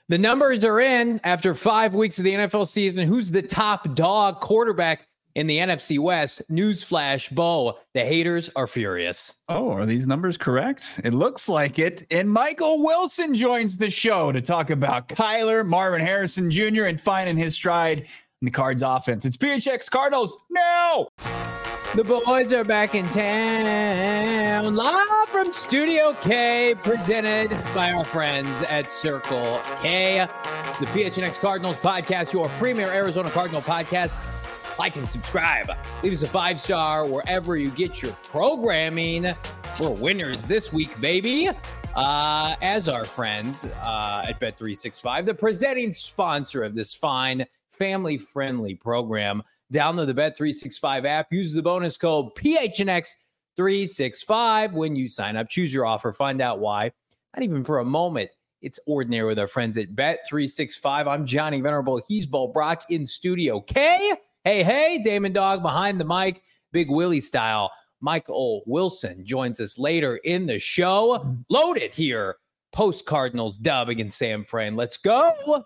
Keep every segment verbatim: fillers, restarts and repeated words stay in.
The numbers are in after five weeks of the N F L season. Who's the top dog quarterback in the N F C West? Newsflash, Bo. The haters are furious. Oh, are these numbers correct? It looks like it. And Michael Wilson joins the show to talk about Kyler, Marvin Harrison Junior, and finding his stride in the Cards offense. It's P H X Cardinals now. The boys are back in town, live from Studio K, presented by our friends at Circle K. It's the P H N X Cardinals podcast, your premier Arizona Cardinal podcast. Like and subscribe. Leave us a five-star wherever you get your programming. We're winners this week, baby. Uh, as our friends uh, at Bet three sixty-five, the presenting sponsor of this fine, family-friendly program. Download the Bet three sixty-five app. Use the bonus code P H N X three sixty-five when you sign up. Choose your offer. Find out why. Not even for a moment. It's ordinary with our friends at Bet three sixty-five. I'm Johnny Venerable. He's Bo Brock in Studio K. Hey, hey, Damon Dog behind the mic. Big Willie style. Michael Wilson joins us later in the show. Loaded here. Post-Cardinals dub against Sam Fran. Let's go.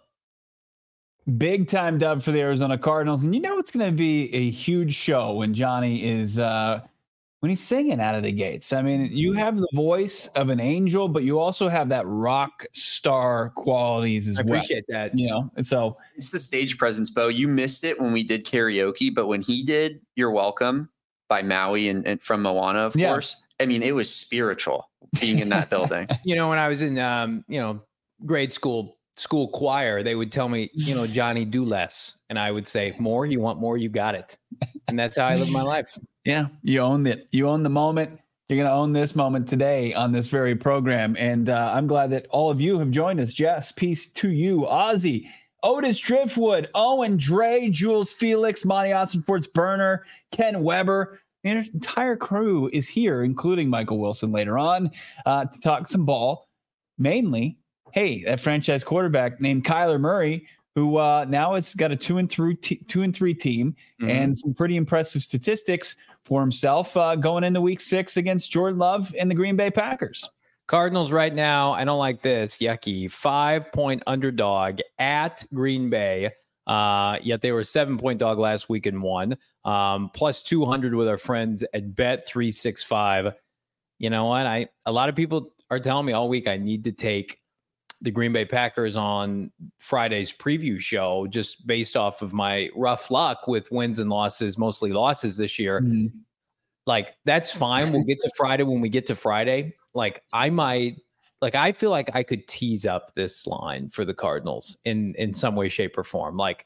Big time dub for the Arizona Cardinals. And you know it's going to be a huge show when Johnny is, uh, when he's singing out of the gates. I mean, you have the voice of an angel, but you also have that rock star qualities as I well. I appreciate that. You know, and so. It's the stage presence, Bo. You missed it when we did karaoke, but when he did You're Welcome by Maui and, and from Moana, of yeah. course, I mean, it was spiritual being in that building. You know, when I was in, um, you know, grade school, school choir, they would tell me, you know, Johnny, do less. And I would say, more, you want more, you got it. And that's how I live my life. Yeah, you own it. You own the moment. You're going to own this moment today on this very program. And uh, I'm glad that all of you have joined us. Jess, peace to you. Ozzy, Otis Driftwood, Owen Dre, Jules Felix, Monty Austin-Forts Burner, Ken Weber. The entire crew is here, including Michael Wilson later on, uh, to talk some ball. Mainly, hey, that franchise quarterback named Kyler Murray, who uh, now has got a two and three t- two and three team mm-hmm. and some pretty impressive statistics for himself uh, going into Week Six against Jordan Love and the Green Bay Packers. Cardinals right now, I don't like this. Yucky, five point underdog at Green Bay. Uh, yet they were a seven point dog last week and won. Um, plus two hundred with our friends at Bet three sixty-five. You know what? I a lot of people are telling me all week I need to take the Green Bay Packers on Friday's preview show, just based off of my rough luck with wins and losses, mostly losses this year. Mm-hmm. Like, that's fine. We'll get to Friday when we get to Friday. Like, I might, like, I feel like I could tease up this line for the Cardinals in, in some way, shape, or form. Like,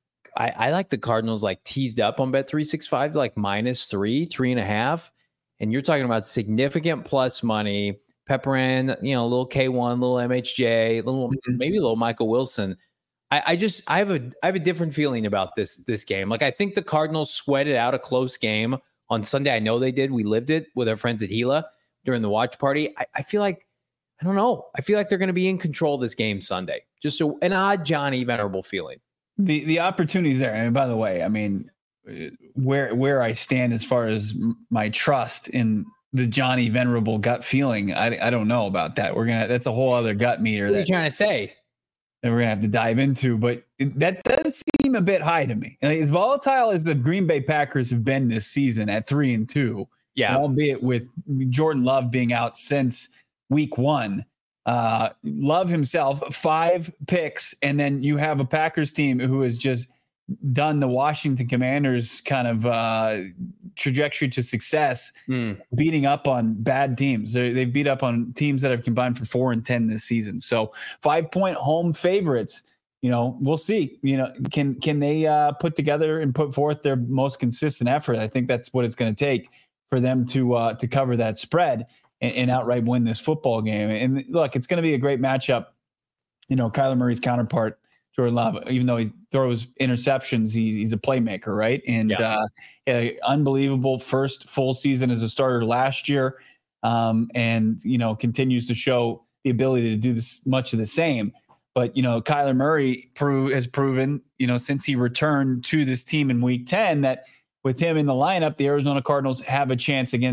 I, I like the Cardinals, like, teased up on Bet three sixty-five, like, minus three, three and a half. And you're talking about significant plus money. Pepper in, you know, a little K one, little M H J, a little mm-hmm. maybe a little Michael Wilson. I, I just I have a I have a different feeling about this this game. Like, I think the Cardinals sweated out a close game on Sunday. I know they did. We lived it with our friends at Gila during the watch party. I, I feel like I don't know. I feel like they're going to be in control of this game Sunday. Just a, an odd Johnny Venerable feeling. The the opportunities there. And by the way, I mean where where I stand as far as my trust in the Johnny Venerable gut feeling, I, I don't know about that. We're gonna that's a whole other gut meter. What are you that, trying to say? That we're gonna have to dive into, but it, that does seem a bit high to me. Like, as volatile as the Green Bay Packers have been this season at three and two, yeah, albeit with Jordan Love being out since week one. Uh, Love himself five picks, and then you have a Packers team who has just done the Washington Commanders kind of uh, trajectory to success, mm. beating up on bad teams. They, they've beat up on teams that have combined for four and ten this season. So five point home favorites, you know, we'll see, you know, can, can they uh, put together and put forth their most consistent effort? I think that's what it's going to take for them to, uh, to cover that spread and, and outright win this football game. And look, it's going to be a great matchup. You know, Kyler Murray's counterpart, Jordan Love, even though he throws interceptions, he, he's a playmaker, right? And yeah. uh, an unbelievable first full season as a starter last year, um, and you know continues to show the ability to do this much of the same. But you know, Kyler Murray prove, has proven, you know, since he returned to this team in Week ten, that with him in the lineup, the Arizona Cardinals have a chance against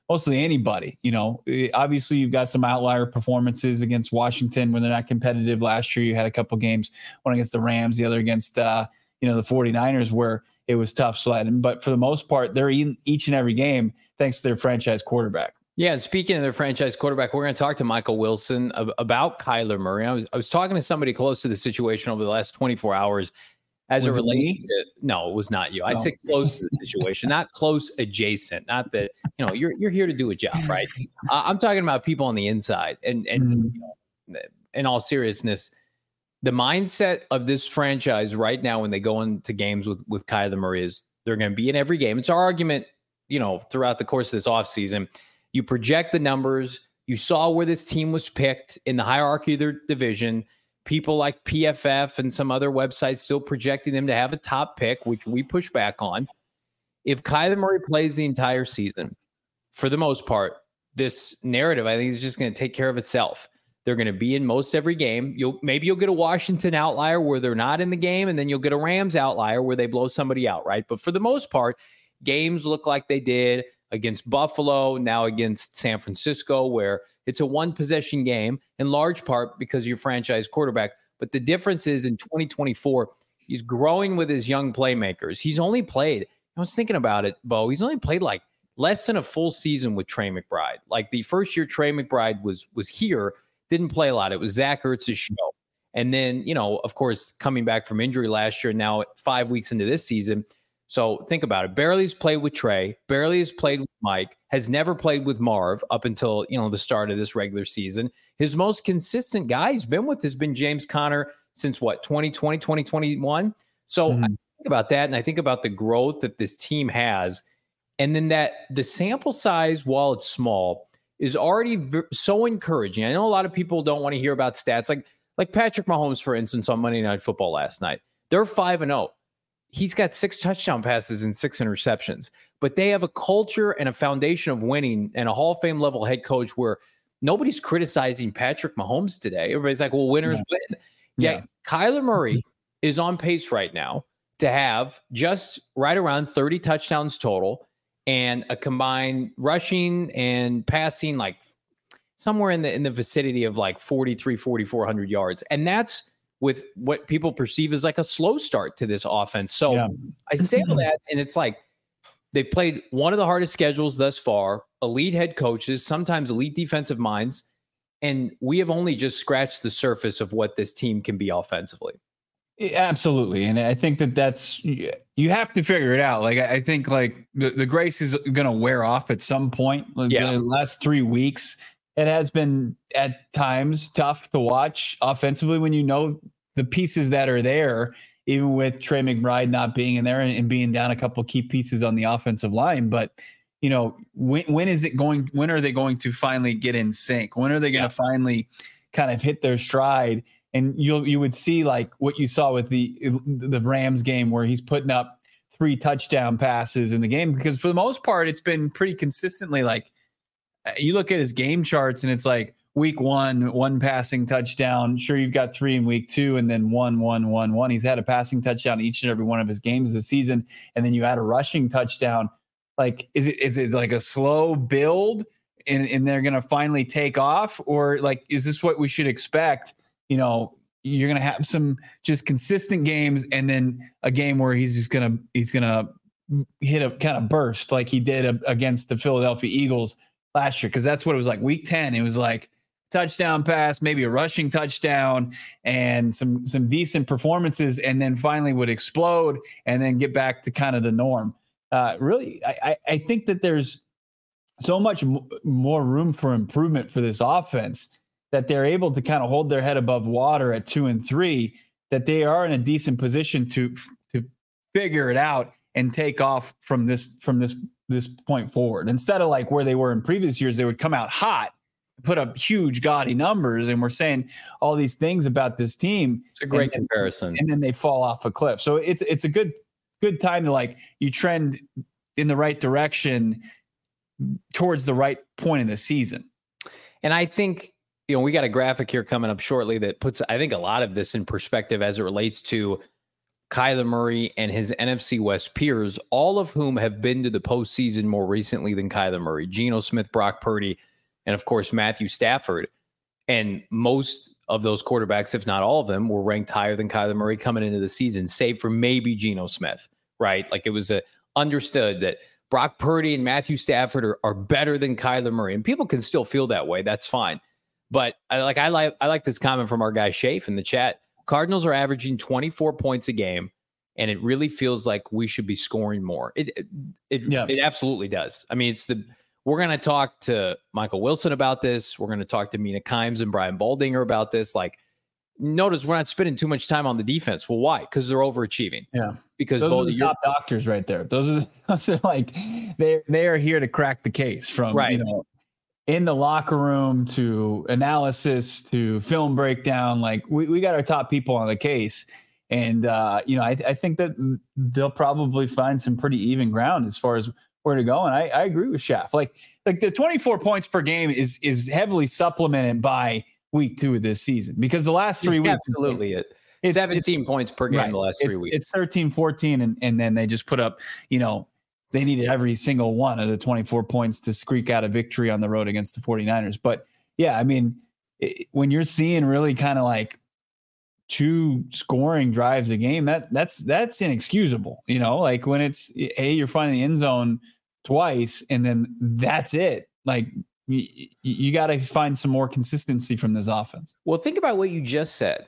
mostly anybody. You know, obviously you've got some outlier performances against Washington when they're not competitive. Last year you had a couple games, one against the Rams, the other against, uh, you know, the 49ers where it was tough sledding. But for the most part, they're in each and every game thanks to their franchise quarterback. Yeah, and speaking of their franchise quarterback, we're going to talk to Michael Wilson ab- about Kyler Murray. I was I was talking to somebody close to the situation over the last twenty-four hours as Was it it relates me? to, no, it was not you. I No. said close to the situation, not close adjacent. Not that, you know, you're you're here to do a job, right? Uh, I'm talking about people on the inside. And and Mhm. you know, in all seriousness, the mindset of this franchise right now when they go into games with with Kyler Murray is they're going to be in every game. It's our argument, you know, throughout the course of this offseason. You project the numbers. You saw where this team was picked in the hierarchy of their division. People like P F F and some other websites still projecting them to have a top pick, which we push back on. If Kyler Murray plays the entire season, for the most part, this narrative, I think, is just going to take care of itself. They're going to be in most every game. You'll maybe you'll get a Washington outlier where they're not in the game, and then you'll get a Rams outlier where they blow somebody out, right? But for the most part, games look like they did against Buffalo, now against San Francisco, where it's a one-possession game, in large part because your franchise quarterback. But the difference is in twenty twenty-four, he's growing with his young playmakers. He's only played, I was thinking about it, Bo, he's only played like less than a full season with Trey McBride. Like the first year Trey McBride was was here, didn't play a lot. It was Zach Ertz's show. And then, you know, of course, coming back from injury last year, now five weeks into this season. So think about it. Barely has played with Trey, barely has played with Mike, has never played with Marv up until, you know, the start of this regular season. His most consistent guy he's been with has been James Conner since what, twenty twenty, twenty twenty-one. So mm-hmm. I think about that, and I think about the growth that this team has. And then that the sample size, while it's small, is already v- so encouraging. I know a lot of people don't want to hear about stats like like Patrick Mahomes, for instance, on Monday Night Football last night. They're five and oh. He's got six touchdown passes and six interceptions, but they have a culture and a foundation of winning and a Hall of Fame level head coach where nobody's criticizing Patrick Mahomes today. Everybody's like, well, winners yeah. win. Yeah. yeah. Kyler Murray is on pace right now to have just right around thirty touchdowns total and a combined rushing and passing, like somewhere in the, in the vicinity of like forty-three, forty-four hundred yards. And that's with what people perceive as like a slow start to this offense. So yeah. I say all that, and it's like they played one of the hardest schedules thus far, elite head coaches, sometimes elite defensive minds, and we have only just scratched the surface of what this team can be offensively. Absolutely. And I think that that's, you have to figure it out. Like, I think like the, the grace is going to wear off at some point. Like yeah. The last three weeks, it has been at times tough to watch offensively when you know the pieces that are there, even with Trey McBride not being in there and, and being down a couple of key pieces on the offensive line. But, you know, when when is it going, when are they going to finally get in sync? When are they going to yeah. finally kind of hit their stride? And you'll, you would see like what you saw with the, the Rams game where he's putting up three touchdown passes in the game, because for the most part, it's been pretty consistently like, you look at his game charts and it's like week one, one passing touchdown. Sure, you've got three in week two and then one, one, one, one. He's had a passing touchdown each and every one of his games this season. And then you add a rushing touchdown. Like, is it is it like a slow build and, and they're going to finally take off? Or like, is this what we should expect? You know, you're going to have some just consistent games and then a game where he's just going to, he's going to hit a kind of burst like he did against the Philadelphia Eagles last year. Cause that's what it was like. Week ten, it was like touchdown pass, maybe a rushing touchdown and some, some decent performances, and then finally would explode and then get back to kind of the norm. Uh, really, I, I think that there's so much m- more room for improvement for this offense that they're able to kind of hold their head above water at two and three, that they are in a decent position to, to figure it out and take off from this, from this, this point forward. Instead of like where they were in previous years, they would come out hot, put up huge gaudy numbers, and we're saying all these things about this team. It's a great and, comparison. And then they fall off a cliff. So it's it's a good good time to like you trend in the right direction towards the right point in the season. And I think, you know, we got a graphic here coming up shortly that puts, I think, a lot of this in perspective as it relates to Kyler Murray and his N F C West peers, all of whom have been to the postseason more recently than Kyler Murray, Geno Smith, Brock Purdy, and of course, Matthew Stafford. And most of those quarterbacks, if not all of them, were ranked higher than Kyler Murray coming into the season, save for maybe Geno Smith, right? Like it was a, understood that Brock Purdy and Matthew Stafford are, are better than Kyler Murray. And people can still feel that way. That's fine. But I like I like I like this comment from our guy Shafe in the chat. Cardinals are averaging twenty-four points a game, and it really feels like we should be scoring more. It it it, yeah. it absolutely does. I mean, it's the we're going to talk to Michael Wilson about this. We're going to talk to Mina Kimes and Brian Baldinger about this. Like, notice we're not spending too much time on the defense. Well, why? Because they're overachieving. Yeah, because those both are the top your- doctors right there. Those are the, those are like they they are here to crack the case from right. you know. in the locker room to analysis to film breakdown. Like we, we got our top people on the case. And, uh, you know, I, I think that they'll probably find some pretty even ground as far as where to go. And I, I agree with Shaft. Like, like the twenty-four points per game is, is heavily supplemented by week two of this season, because the last three yeah, weeks, absolutely it. It's, seventeen it's, points per game right, the last three it's, weeks. It's thirteen, fourteen. And, and then they just put up, you know, they needed every single one of the twenty-four points to squeak out a victory on the road against the 49ers. But yeah, I mean, it, when you're seeing really kind of like two scoring drives a game, that that's, that's inexcusable. You know, like when it's, hey, you're finding the end zone twice and then that's it. Like you, you got to find some more consistency from this offense. Well, think about what you just said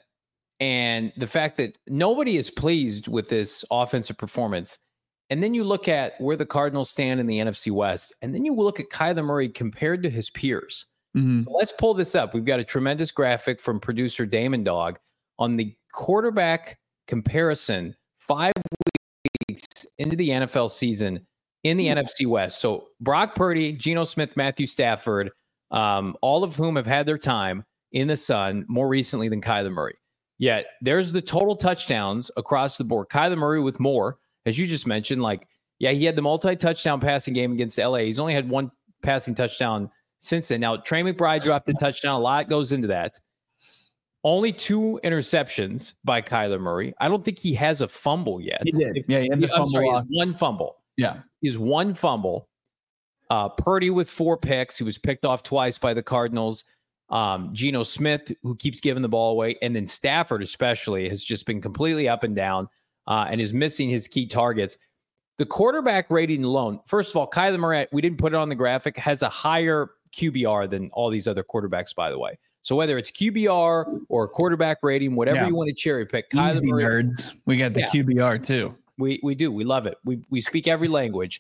and the fact that nobody is pleased with this offensive performance. And then you look at where the Cardinals stand in the N F C West, and then you look at Kyler Murray compared to his peers. Mm-hmm. So let's pull this up. We've got a tremendous graphic from producer Damon Dog on the quarterback comparison five weeks into the N F L season in the mm-hmm. N F C West. So Brock Purdy, Geno Smith, Matthew Stafford, um, all of whom have had their time in the sun more recently than Kyler Murray. Yet there's the total touchdowns across the board. Kyler Murray with more. As you just mentioned, like, yeah, he had the multi-touchdown passing game against L A. He's only had one passing touchdown since then. Now, Trey McBride dropped the touchdown. A lot goes into that. Only two interceptions by Kyler Murray. I don't think he has a fumble yet. He did. If, yeah, he had the I'm fumble sorry, he off. has one fumble. Yeah. He's one fumble. Uh, Purdy with four picks. He was picked off twice by the Cardinals. Um, Geno Smith, who keeps giving the ball away. And then Stafford especially has just been completely up and down. Uh, and is missing his key targets. The quarterback rating alone, first of all, Kyler Murray, we didn't put it on the graphic, has a higher Q B R than all these other quarterbacks, by the way. So whether it's Q B R or quarterback rating, whatever yeah. you want to cherry pick, Kyler Easy Murray. Nerds. We got the yeah. Q B R too. We we do. We love it. We we speak every language.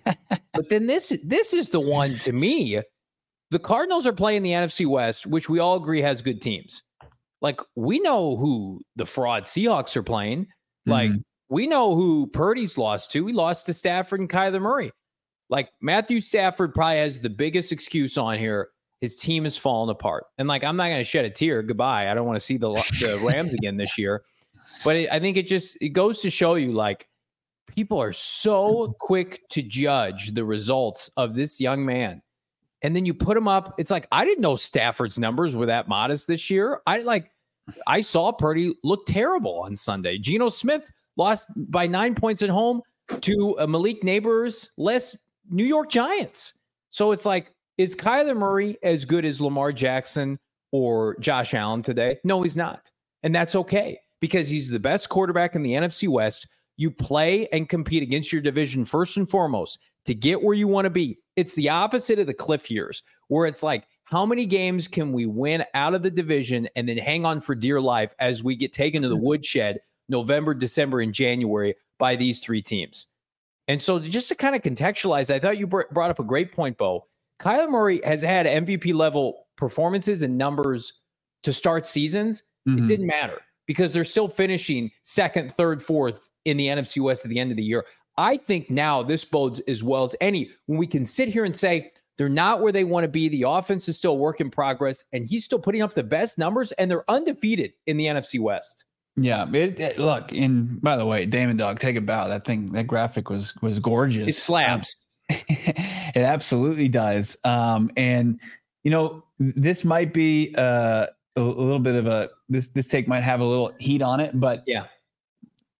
But then this this is the one to me. The Cardinals are playing the N F C West, which we all agree has good teams. Like we know who the fraud Seahawks are playing. Like, mm-hmm. we know who Purdy's lost to. He lost to Stafford and Kyler Murray. Like, Matthew Stafford probably has the biggest excuse on here. His team has fallen apart. And, like, I'm not going to shed a tear. Goodbye. I don't want to see the, the Rams again this year. But it, I think it just it goes to show you, like, people are so quick to judge the results of this young man. And then you put him up. It's like, I didn't know Stafford's numbers were that modest this year. I, like, I saw Purdy look terrible on Sunday. Geno Smith lost by nine points at home to uh, Malik Neighbors less New York Giants. So it's like, is Kyler Murray as good as Lamar Jackson or Josh Allen today? No, he's not. And that's okay because he's the best quarterback in the N F C West. You play and compete against your division first and foremost to get where you want to be. It's the opposite of the Cliff years where it's like, how many games can we win out of the division and then hang on for dear life as we get taken to the woodshed November, December, and January by these three teams? And so just to kind of contextualize, I thought you brought up a great point, Bo. Kyler Murray has had M V P level performances and numbers to start seasons. Mm-hmm. It didn't matter because they're still finishing second, third, fourth in the N F C West at the end of the year. I think now this bodes as well as any when we can sit here and say, they're not where they want to be. The offense is still a work in progress, and he's still putting up the best numbers, and they're undefeated in the N F C West. Yeah, it, it, look, and by the way, Damon Dog, take a bow. That thing, that graphic was was gorgeous. It slaps. Um, it absolutely does. Um, and you know, this might be uh, a, a little bit of a this this take might have a little heat on it, but yeah,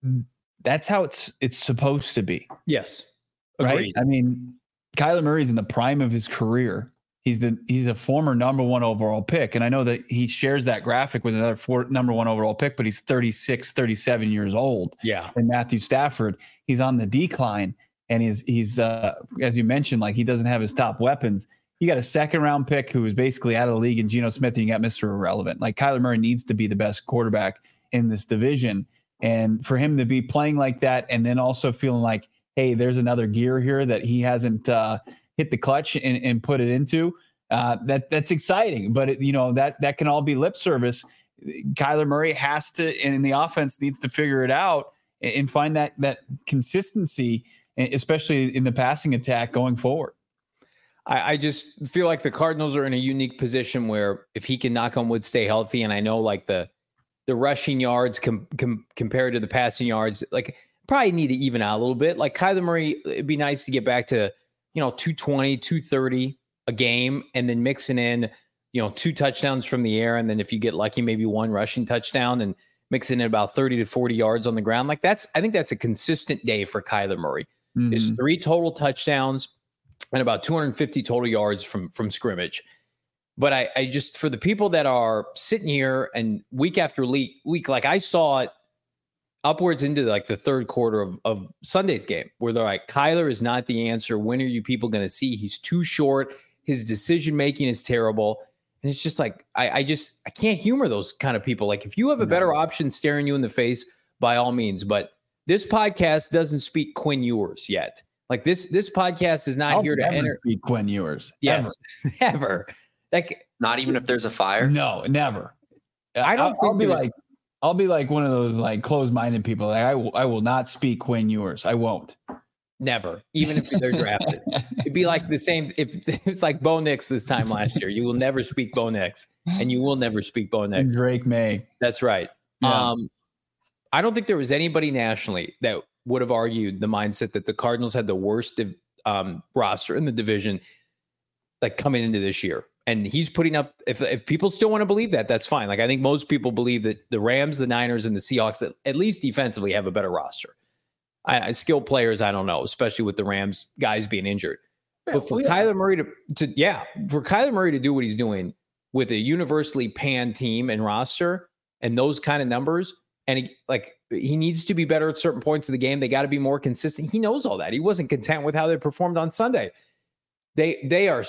that's how it's it's supposed to be. Yes. Right. Agreed. I mean, Kyler Murray's in the prime of his career. He's the he's a former number one overall pick. And I know that he shares that graphic with another four, number one overall pick, but he's thirty-six, thirty-seven years old. Yeah. And Matthew Stafford, he's on the decline. And he's, he's uh, as you mentioned, like he doesn't have his top weapons. You got a second round pick who is basically out of the league in Geno Smith, and you got Mister Irrelevant. Like Kyler Murray needs to be the best quarterback in this division. And for him to be playing like that and then also feeling like, hey, there's another gear here that he hasn't uh, hit the clutch and, and put it into, uh, that that's exciting. But, it, you know, that that can all be lip service. Kyler Murray has to, and the offense needs to figure it out and find that that consistency, especially in the passing attack going forward. I, I just feel like the Cardinals are in a unique position where if he can, knock on wood, stay healthy, and I know like the the rushing yards com, com, compared to the passing yards, like probably need to even out a little bit. Like Kyler Murray, it'd be nice to get back to, you know, two twenty, two thirty a game, and then mixing in, you know, two touchdowns from the air. And then if you get lucky, maybe one rushing touchdown and mixing in about thirty to forty yards on the ground. Like that's, I think that's a consistent day for Kyler Murray. Mm-hmm. It's three total touchdowns and about two hundred fifty total yards from, from scrimmage. But I, I just, for the people that are sitting here and week after week, week, like I saw it upwards into like the third quarter of, of Sunday's game where they're like, Kyler is not the answer. When are you people going to see? He's too short. His decision-making is terrible. And it's just like, I, I just, I can't humor those kind of people. Like if you have a better no. option staring you in the face, by all means, but this podcast doesn't speak Quinn Ewers yet. Like this, this podcast is not I'll here to enter speak Quinn Ewers. Yes, ever. never. Like not even if there's a fire. No, never. I don't I'll, think I'll be there's... like, I'll be like one of those like closed-minded people. Like I, w- I will not speak Quinn Ewers. I won't. Never, even if they're drafted. It'd be like the same. If it's like Bo Nix this time last year, you will never speak Bo Nix, and you will never speak Bo Nix. Drake May. That's right. Yeah. Um, I don't think there was anybody nationally that would have argued the mindset that the Cardinals had the worst um, roster in the division, like coming into this year. And he's putting up, if if people still want to believe that, that's fine. Like I think most people believe that the Rams, the Niners, and the Seahawks, at, at least defensively, have a better roster. I, I skilled players, I don't know, especially with the Rams guys being injured. Yeah, but for well, yeah. Kyler Murray to, to, yeah, for Kyler Murray to do what he's doing with a universally panned team and roster and those kind of numbers, and he, like he needs to be better at certain points of the game. They got to be more consistent. He knows all that. He wasn't content with how they performed on Sunday. They they are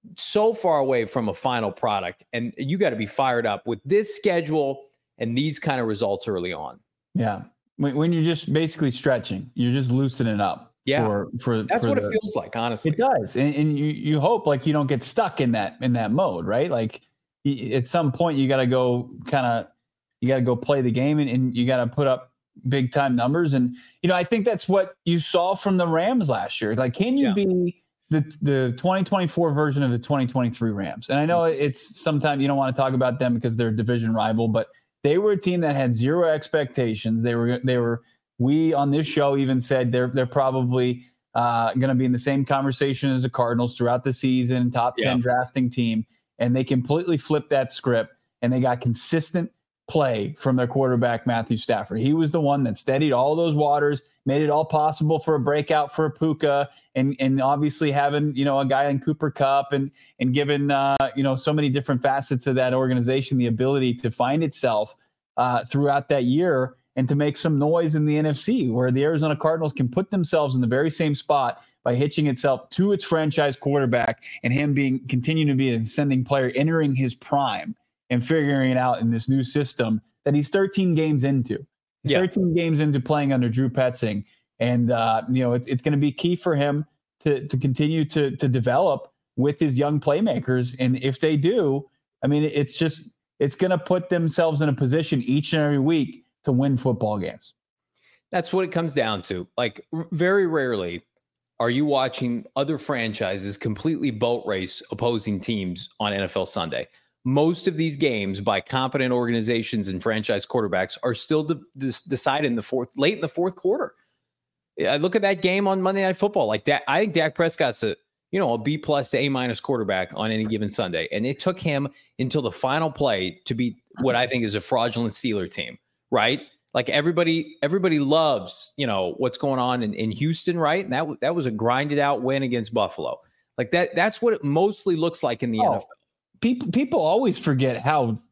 so far away from a final product, and you got to be fired up with this schedule and these kind of results early on. Yeah. When, when you're just basically stretching, you're just loosening up. Yeah. For, for, That's for what the, it feels like, honestly. It does. And, and you, you hope like you don't get stuck in that, in that mode, right? Like at some point you got to go kind of, you got to go play the game and, and you got to put up big time numbers. And, you know, I think that's what you saw from the Rams last year. Like, can you yeah. be the the twenty twenty-four version of the twenty twenty-three Rams? And I know it's sometimes you don't want to talk about them because they're a division rival, but they were a team that had zero expectations. They were, they were, we on this show even said they're, they're probably uh, going to be in the same conversation as the Cardinals throughout the season, top ten yeah. drafting team. And they completely flipped that script and they got consistent play from their quarterback, Matthew Stafford. He was the one that steadied all those waters, made it all possible for a breakout for a Puka, and and obviously having, you know, a guy in Cooper Kupp and and given, uh, you know, so many different facets of that organization the ability to find itself uh, throughout that year and to make some noise in the N F C, where the Arizona Cardinals can put themselves in the very same spot by hitching itself to its franchise quarterback and him being continuing to be an ascending player, entering his prime and figuring it out in this new system that he's thirteen games into. He's yeah. thirteen games into playing under Drew Petzing. And, uh, you know, it's it's going to be key for him to to continue to to develop with his young playmakers. And if they do, I mean, it's just it's going to put themselves in a position each and every week to win football games. That's what it comes down to. Like, r- very rarely are you watching other franchises completely boat race opposing teams on N F L Sunday. Most of these games by competent organizations and franchise quarterbacks are still de- de- decided in the fourth, late in the fourth quarter. I look at that game on Monday Night Football. Like that, I think Dak Prescott's a, you know, a B plus to A minus quarterback on any given Sunday. And it took him until the final play to beat what I think is a fraudulent Steeler team, right? like everybody, everybody loves, you know, what's going on in, in Houston, right? And that that was a grinded out win against Buffalo. Like that, that's what it mostly looks like in the oh, N F L. People people always forget how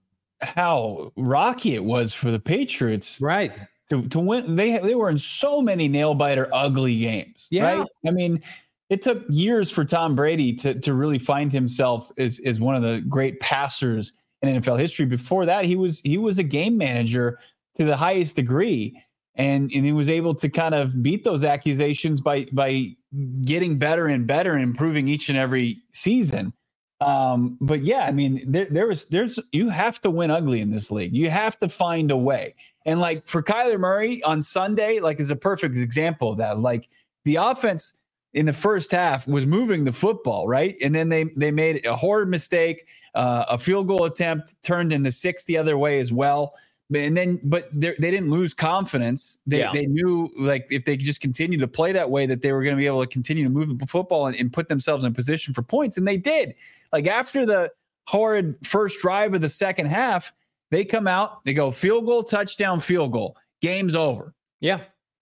how rocky it was for the Patriots, right? To to win. They they were in so many nail biter ugly games. Yeah, right? I mean, it took years for Tom Brady to to really find himself as as one of the great passers in N F L history. Before that, he was he was a game manager to the highest degree. And, and he was able to kind of beat those accusations by by getting better and better and improving each and every season. Um, but yeah, I mean, there there was there's you have to win ugly in this league. You have to find a way. And like for Kyler Murray on Sunday, like is a perfect example of that. Like the offense in the first half was moving the football, right? And then they they made a horrid mistake, uh, a field goal attempt turned into six the other way as well. And then, but they didn't lose confidence. They yeah. they knew like if they just continued to play that way, that they were going to be able to continue to move the football and, and put themselves in position for points. And they did. Like after the horrid first drive of the second half, they come out, they go field goal, touchdown, field goal. Game's over. Yeah.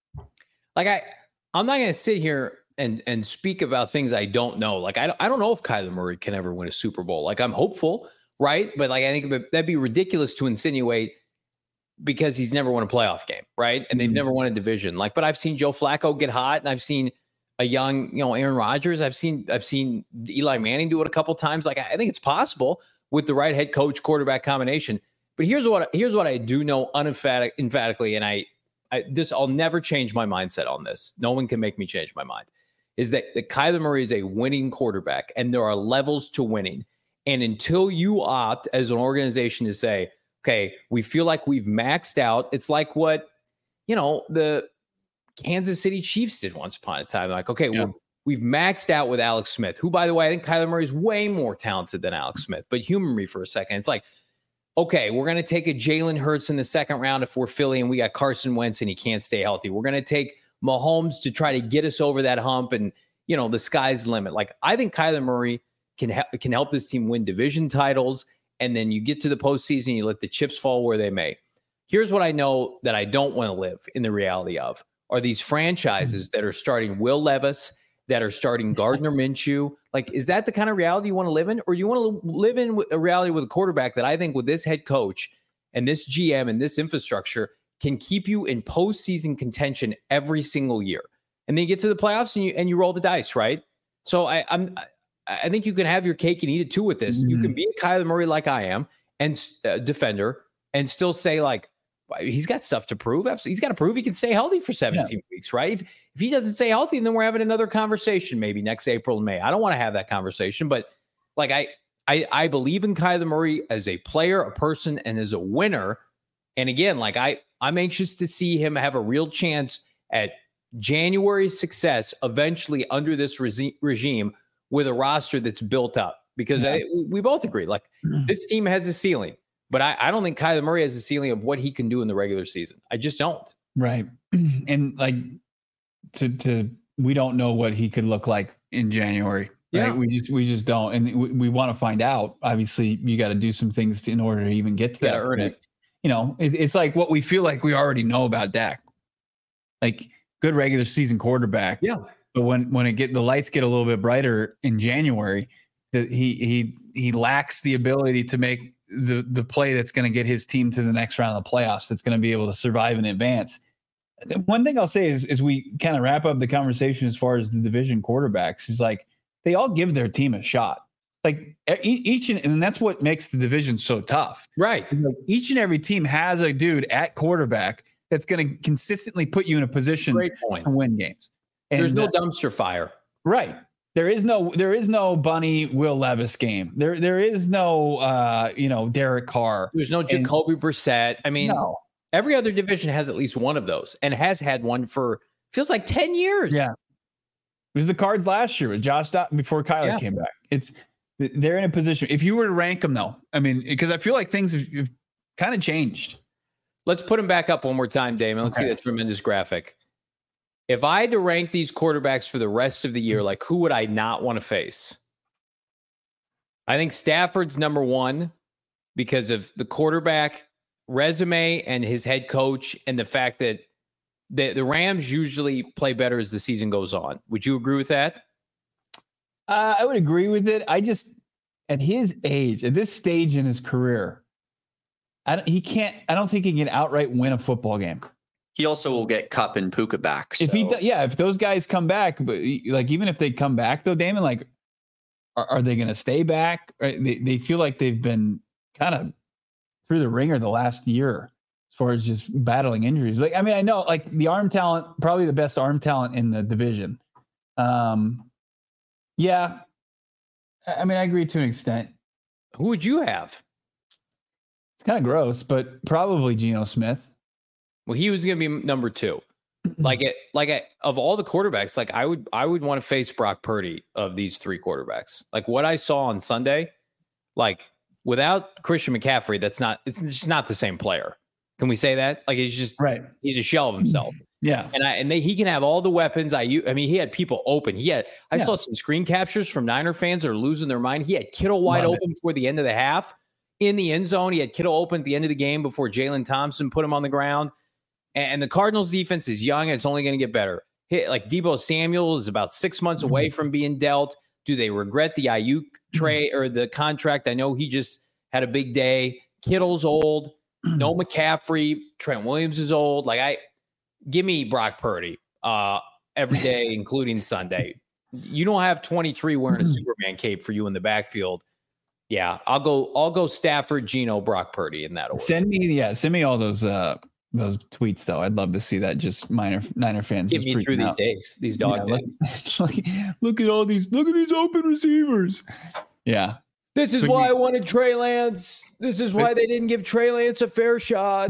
Like I, I'm not going to sit here and and speak about things I don't know. Like I, I don't know if Kyler Murray can ever win a Super Bowl. Like I'm hopeful, right? But like I think that'd be ridiculous to insinuate, because he's never won a playoff game, right? And they've never won a division. Like, but I've seen Joe Flacco get hot, and I've seen a young, you know, Aaron Rodgers. I've seen I've seen Eli Manning do it a couple times. Like, I think it's possible with the right head coach quarterback combination. But here's what here's what I do know unemphatic, emphatically, and I, I this I'll never change my mindset on this. No one can make me change my mind. Is that, that Kyler Murray is a winning quarterback, and there are levels to winning. And until you opt as an organization to say, okay, we feel like we've maxed out. It's like what, you know, the Kansas City Chiefs did once upon a time. Like, okay, yeah. we're, we've maxed out with Alex Smith, who, by the way, I think Kyler Murray is way more talented than Alex Smith. But humor me for a second. It's like, okay, we're going to take a Jalen Hurts in the second round if we're Philly and we got Carson Wentz and he can't stay healthy. We're going to take Mahomes to try to get us over that hump, and, you know, the sky's the limit. Like, I think Kyler Murray can, ha- can help this team win division titles. And then you get to the postseason, you let the chips fall where they may. Here's what I know that I don't want to live in the reality of are these franchises that are starting Will Levis, that are starting Gardner Minshew. Like, is that the kind of reality you want to live in? Or you want to live in a reality with a quarterback that I think with this head coach and this G M and this infrastructure can keep you in postseason contention every single year? And then you get to the playoffs and you and you roll the dice, right? So I, I'm I think you can have your cake and eat it too with this. Mm-hmm. You can be a Kyler Murray like I am and uh, defender and still say like, he's got stuff to prove. Absolutely. He's got to prove he can stay healthy for seventeen yeah. weeks, right? If, if he doesn't stay healthy, then we're having another conversation maybe next April and May. I don't want to have that conversation, but like I, I, I believe in Kyler Murray as a player, a person, and as a winner. And again, like I, I'm anxious to see him have a real chance at January success eventually under this re- regime with a roster that's built up, because yeah. I, we both agree, like this team has a ceiling, but I, I don't think Kyler Murray has a ceiling of what he can do in the regular season. I just don't. Right. And like to, to, we don't know what he could look like in January. Right? Yeah. We just, we just don't. And we, we want to find out. Obviously you got to do some things to, in order to even get to that. Earn it. You know, it, it's like what we feel like we already know about Dak, like good regular season quarterback. Yeah. But when, when it get the lights get a little bit brighter in January, that he he he lacks the ability to make the the play that's going to get his team to the next round of the playoffs. That's going to be able to survive in advance. One thing I'll say is, is we kind of wrap up the conversation as far as the division quarterbacks is like they all give their team a shot. Like each and, and that's what makes the division so tough. Right. Like each and every team has a dude at quarterback that's going to consistently put you in a position Great point. to win games. And there's no uh, dumpster fire. Right. There is no there is no Bunny Will Levis game. There there is no uh, you know, Derek Carr. There's no Jacoby and, Brissett. I mean, no. Every other division has at least one of those and has had one for feels like ten years. Yeah. It was the Cards last year with Josh Dot before Kyler yeah. came back. It's they're in a position. If you were to rank them though, I mean, because I feel like things have, have kind of changed. Let's put them back up one more time, Damon. Let's okay. see that tremendous graphic. If I had to rank these quarterbacks for the rest of the year, like who would I not want to face? I think Stafford's number one because of the quarterback resume and his head coach and the fact that the, the Rams usually play better as the season goes on. Would you agree with that? Uh, I would agree with it. I just, at his age, at this stage in his career, I don't, he can't, I don't think he can outright win a football game. He also will get Kupp and Puka back. So. If he, yeah, if those guys come back, but like, even if they come back though, Damon, like, are, are they going to stay back? Right? They, they feel like they've been kind of through the ringer the last year as far as just battling injuries. Like, I mean, I know like the arm talent, probably the best arm talent in the division. Um, yeah. I mean, I agree to an extent. Who would you have? It's kind of gross, but probably Geno Smith. Well, he was going to be number two. Like it, like it, of all the quarterbacks, like I would, I would want to face Brock Purdy of these three quarterbacks. Like what I saw on Sunday, like without Christian McCaffrey, that's not, it's just not the same player. Can we say that? Like he's just right. He's a shell of himself. Yeah, and I and they, he can have all the weapons. I I mean, he had people open. He had. I yeah. saw some screen captures from Niner fans that are losing their mind. He had Kittle wide Love open it. before the end of the half in the end zone. He had Kittle open at the end of the game before Jalen Thompson put him on the ground. And the Cardinals defense is young and it's only going to get better. Hit, like Deebo Samuel is about six months away from being dealt. Do they regret the Ayuk trade or the contract? I know he just had a big day. Kittle's old. No McCaffrey. Trent Williams is old. Like I, give me Brock Purdy uh, every day, including Sunday. You don't have twenty-three wearing a Superman cape for you in the backfield. Yeah, I'll go. I'll go Stafford, Geno, Brock Purdy in that order. Send me, yeah, send me all those. Uh... Those tweets, though, I'd love to see that. Just minor Niner fans get me through out. these days, these dog yeah, days. Look, look at all these, look at these open receivers. Yeah, this is but why you, I wanted Trey Lance. This is why they didn't give Trey Lance a fair shot.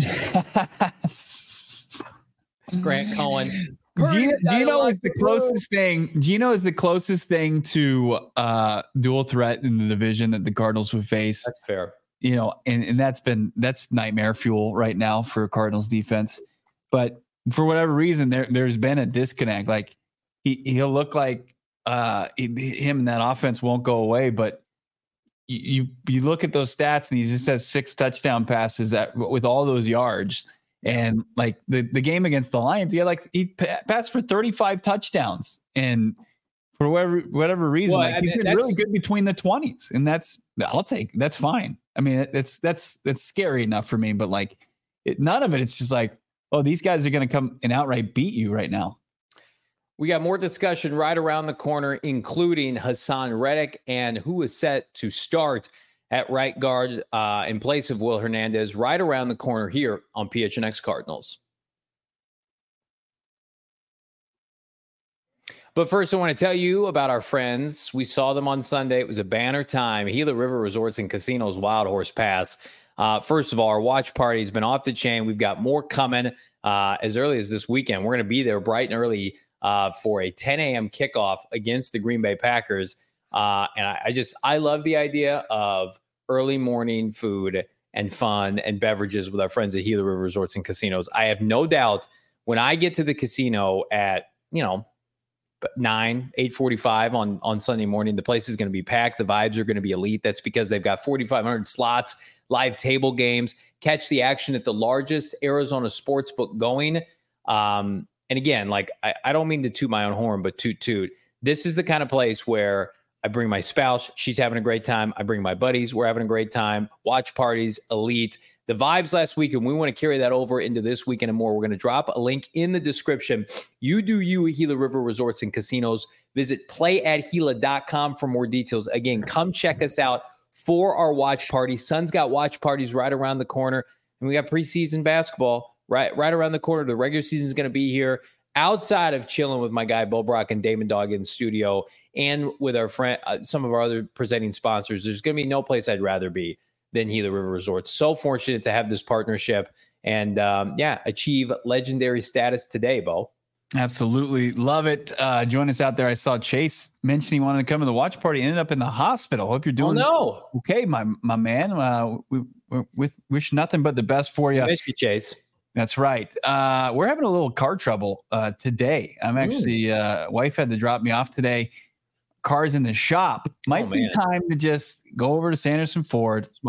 Grant Cohen. Geno, Geno is the closest thing. Geno is the closest thing to uh, dual threat in the division that the Cardinals would face. That's fair. You know, and, and that's been that's nightmare fuel right now for Cardinals defense. But for whatever reason, there there's been a disconnect. Like he he'll look like uh, he, him and that offense won't go away. But you, you you look at those stats, and he just has six touchdown passes at, with all those yards. And like the the game against the Lions, he had like he passed for thirty-five touchdowns, and for whatever whatever reason, well, like he's I mean, been really good between the twenties, and that's I'll take that's fine. I mean, it's that's that's scary enough for me, but like it, none of it. It's just like, oh, these guys are going to come and outright beat you right now. We got more discussion right around the corner, including Hassan Reddick and who is set to start at right guard uh, in place of Will Hernandez right around the corner here on P H N X Cardinals. But first, I want to tell you about our friends. We saw them on Sunday. It was a banner time. Gila River Resorts and Casinos Wild Horse Pass. Uh, first of all, our watch party has been off the chain. We've got more coming uh, as early as this weekend. We're going to be there bright and early uh, for a ten a.m. kickoff against the Green Bay Packers. Uh, and I, I just, I love the idea of early morning food and fun and beverages with our friends at Gila River Resorts and Casinos. I have no doubt when I get to the casino at, you know, nine, eight forty-five on, on Sunday morning, the place is going to be packed. The vibes are going to be elite. That's because they've got forty-five hundred slots, live table games, catch the action at the largest Arizona sports book going. Um, and again, like, I, I don't mean to toot my own horn, but toot toot. This is the kind of place where I bring my spouse. She's having a great time. I bring my buddies. We're having a great time. Watch parties, elite. The vibes last week, and we want to carry that over into this weekend and more. We're going to drop a link in the description. You do you at Gila River Resorts and Casinos. Visit play at gila dot com for more details. Again, come check us out for our watch party. Sun's got watch parties right around the corner, and we got preseason basketball right, right around the corner. The regular season is going to be here. Outside of chilling with my guy Bo Brock and Damon Dog in the studio, and with our friend, uh, some of our other presenting sponsors, there's going to be no place I'd rather be than Gila River Resorts. So fortunate to have this partnership and, um, yeah, achieve legendary status today, Bo. Absolutely. Love it. Uh, join us out there. I saw Chase mention he wanted to come to the watch party, ended up in the hospital. Hope you're doing oh, no. okay, my my man. Uh, we, we, we wish nothing but the best for you. Miss you, Chase. That's right. Uh, we're having a little car trouble uh, today. I'm actually, uh, wife had to drop me off today. Car's in the shop. Might oh, be time to just go over to Sanderson Ford. Smart.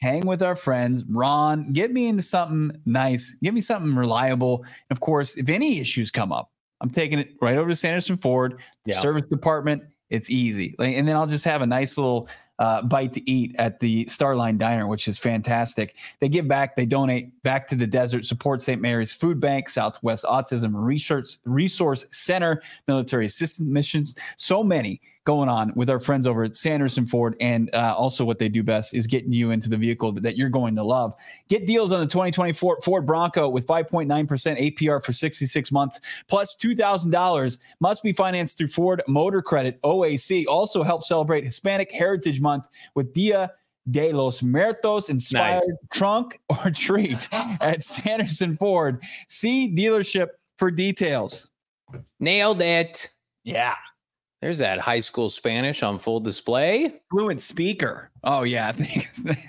hang with our friends. Ron, get me into something nice. Give me something reliable. And of course, if any issues come up, I'm taking it right over to Sanderson Ford, yeah. service department. It's easy. Like, and then I'll just have a nice little uh, bite to eat at the Starline Diner, which is fantastic. They give back. They donate back to the desert, support Saint Mary's Food Bank, Southwest Autism Research Resource Center, military assistance missions. So many going on with our friends over at Sanderson Ford. And uh, also what they do best is getting you into the vehicle that, that you're going to love. Get deals on the twenty twenty-four Ford Bronco with five point nine percent A P R for sixty-six months, plus two thousand dollars. Must be financed through Ford Motor Credit, O A C. Also help celebrate Hispanic Heritage Month with Dia de los Muertos inspired nice. Trunk or treat at Sanderson Ford. See dealership for details. Nailed it. Yeah. There's that high school Spanish on full display. Fluent speaker. Oh, yeah. I think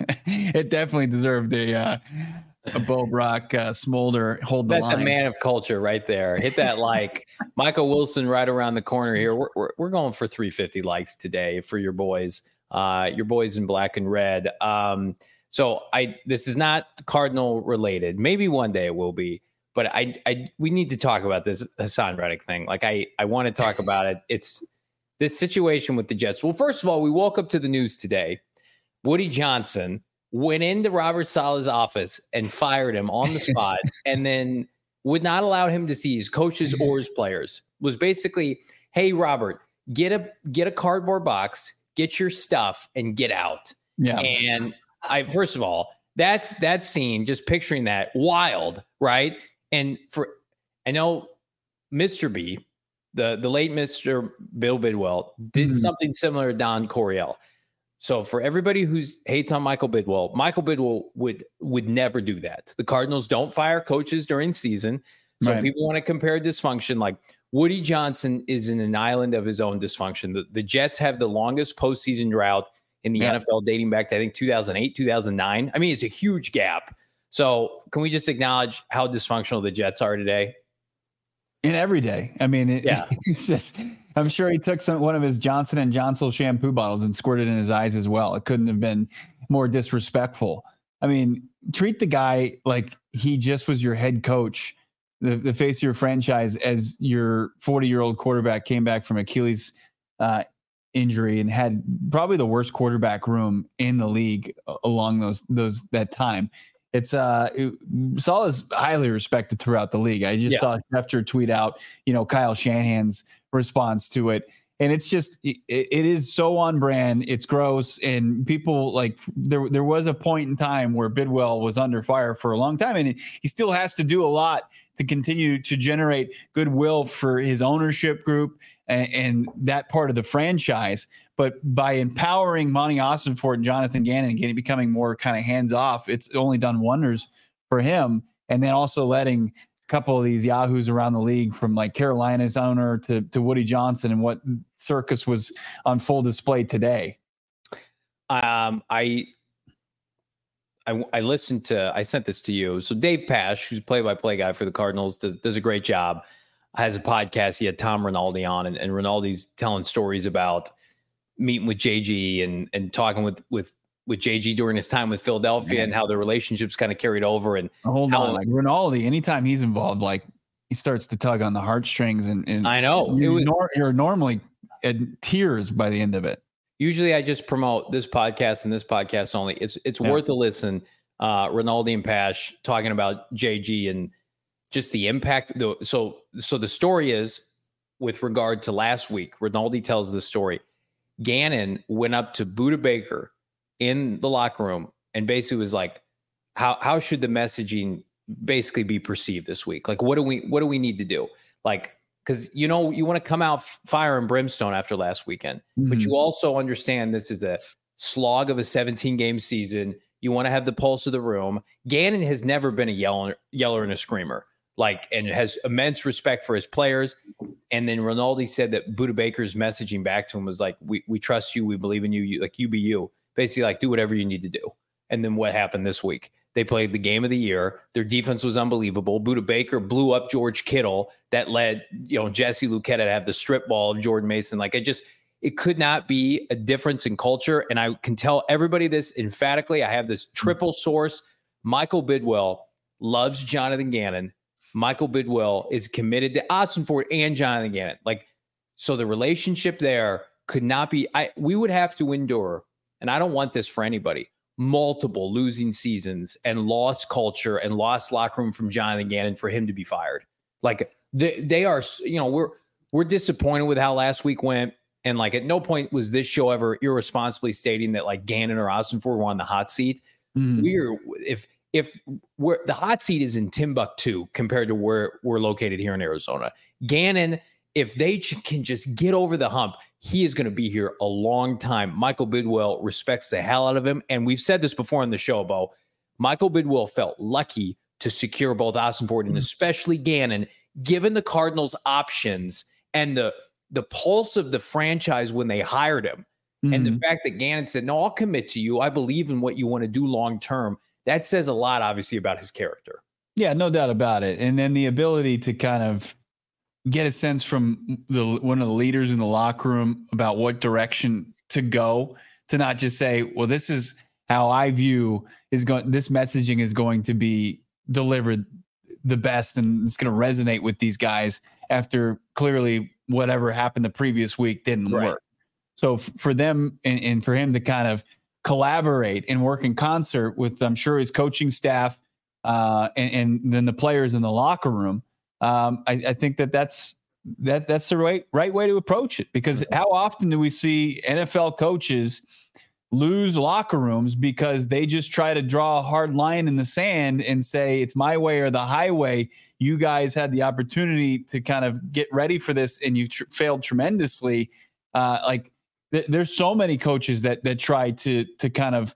it definitely deserved a, uh, a Bo Brock uh, smolder. Hold the That's line. A man of culture right there. Hit that like. Michael Wilson right around the corner here. We're, we're, we're going for three fifty likes today for your boys, uh, your boys in black and red. Um, so I this is not Cardinal related. Maybe one day it will be. But I, I we need to talk about this Hassan Reddick thing. Like I, I want to talk about it. It's this situation with the Jets. Well, first of all, we woke up to the news today. Woody Johnson went into Robert Saleh's office and fired him on the spot and then would not allow him to see his coaches or his players. Was basically, hey, Robert, get a get a cardboard box, get your stuff, and get out. Yeah. And I first of all, that's that scene, just picturing that, wild, right? And for I know Mister B, the, the late Mister Bill Bidwell, did mm-hmm. something similar to Don Coryell. So for everybody who's hates on Michael Bidwell, Michael Bidwell would would never do that. The Cardinals don't fire coaches during season. So right. people want to compare dysfunction. Like Woody Johnson is in an island of his own dysfunction. The, the Jets have the longest postseason drought in the yeah. N F L dating back to, I think, two thousand eight, two thousand nine. I mean, it's a huge gap. So can we just acknowledge how dysfunctional the Jets are today? In every day. I mean, it, yeah. it's just, I'm sure he took some one of his Johnson and Johnson shampoo bottles and squirted in his eyes as well. It couldn't have been more disrespectful. I mean, treat the guy like he just was your head coach, the, the face of your franchise, as your forty-year-old quarterback came back from Achilles uh, injury and had probably the worst quarterback room in the league along those those that time. It's uh, it, Saul is highly respected throughout the league. I just yeah. saw Schefter tweet out, you know, Kyle Shanahan's response to it. And it's just, it, it is so on brand. It's gross. And people like there, there was a point in time where Bidwell was under fire for a long time, and he still has to do a lot to continue to generate goodwill for his ownership group and, and that part of the franchise. But by empowering Monty Ossenfort and Jonathan Gannon, getting becoming more kind of hands off, it's only done wonders for him. And then also letting a couple of these yahoos around the league, from like Carolina's owner to to Woody Johnson, and what circus was on full display today. Um, I, I I listened to. I sent this to you. So Dave Pasch, who's play-by-play guy for the Cardinals, does does a great job. Has a podcast. He had Tom Rinaldi on, and, and Rinaldi's telling stories about meeting with J G and and talking with with with J G during his time with Philadelphia, yeah. and how the relationships kind of carried over. And hold how, on, like Rinaldi, anytime he's involved, like he starts to tug on the heartstrings, and, and I know you, it was, nor, you're normally in tears by the end of it. Usually, I just promote this podcast and this podcast only. It's it's yeah. worth a listen. Uh, Rinaldi and Pasch talking about J G and just the impact. The, so so the story is, with regard to last week, Rinaldi tells the story. Gannon went up to Budda Baker in the locker room and basically was like, how how should the messaging basically be perceived this week? Like, what do we what do we need to do? Like, because, you know, you want to come out fire and brimstone after last weekend, mm-hmm. but you also understand this is a slog of a seventeen game season. You want to have the pulse of the room. Gannon has never been a yeller, yeller and a screamer, like, and has immense respect for his players. And then Rinaldi said that Budda Baker's messaging back to him was like, we we trust you. We believe in you. You like, you be you. Basically, like, do whatever you need to do. And then what happened this week? They played the game of the year. Their defense was unbelievable. Budda Baker blew up George Kittle. That led, you know, Jesse Luketa to have the strip ball of Jordan Mason. Like, it just, It could not be a difference in culture. And I can tell everybody this emphatically. I have this triple source. Michael Bidwell loves Jonathan Gannon. Michael Bidwell is committed to Ossenfort and Jonathan Gannon. Like, so the relationship there could not be, I, we would have to endure, and I don't want this for anybody, multiple losing seasons and lost culture and lost locker room from Jonathan Gannon for him to be fired. Like they, they are, you know, we're, we're disappointed with how last week went. And like at no point was this show ever irresponsibly stating that like Gannon or Ossenfort were on the hot seat. Mm-hmm. We're, if, if we're, the hot seat is in Timbuktu compared to where we're located here in Arizona. Gannon, if they ch- can just get over the hump, he is going to be here a long time. Michael Bidwell respects the hell out of him. And we've said this before on the show, Bo. Michael Bidwell felt lucky to secure both Ossenfort and especially Gannon, given the Cardinals' options and the the pulse of the franchise when they hired him. Mm-hmm. And the fact that Gannon said, no, I'll commit to you. I believe in what you want to do long term. That says a lot, obviously, about his character. Yeah, no doubt about it. And then the ability to kind of get a sense from the one of the leaders in the locker room about what direction to go, to not just say, well, this is how I view is going, this messaging is going to be delivered the best and it's going to resonate with these guys after clearly whatever happened the previous week didn't right. work. So f- for them and, and for him to kind of collaborate and work in concert with, I'm sure, his coaching staff uh, and, and then the players in the locker room, um, I, I think that that's that that's the right right way to approach it. Because how often do we see N F L coaches lose locker rooms because they just try to draw a hard line in the sand and say it's my way or the highway? You guys had the opportunity to kind of get ready for this and you tr- failed tremendously. Uh, like th- there's so many coaches that that try to to kind of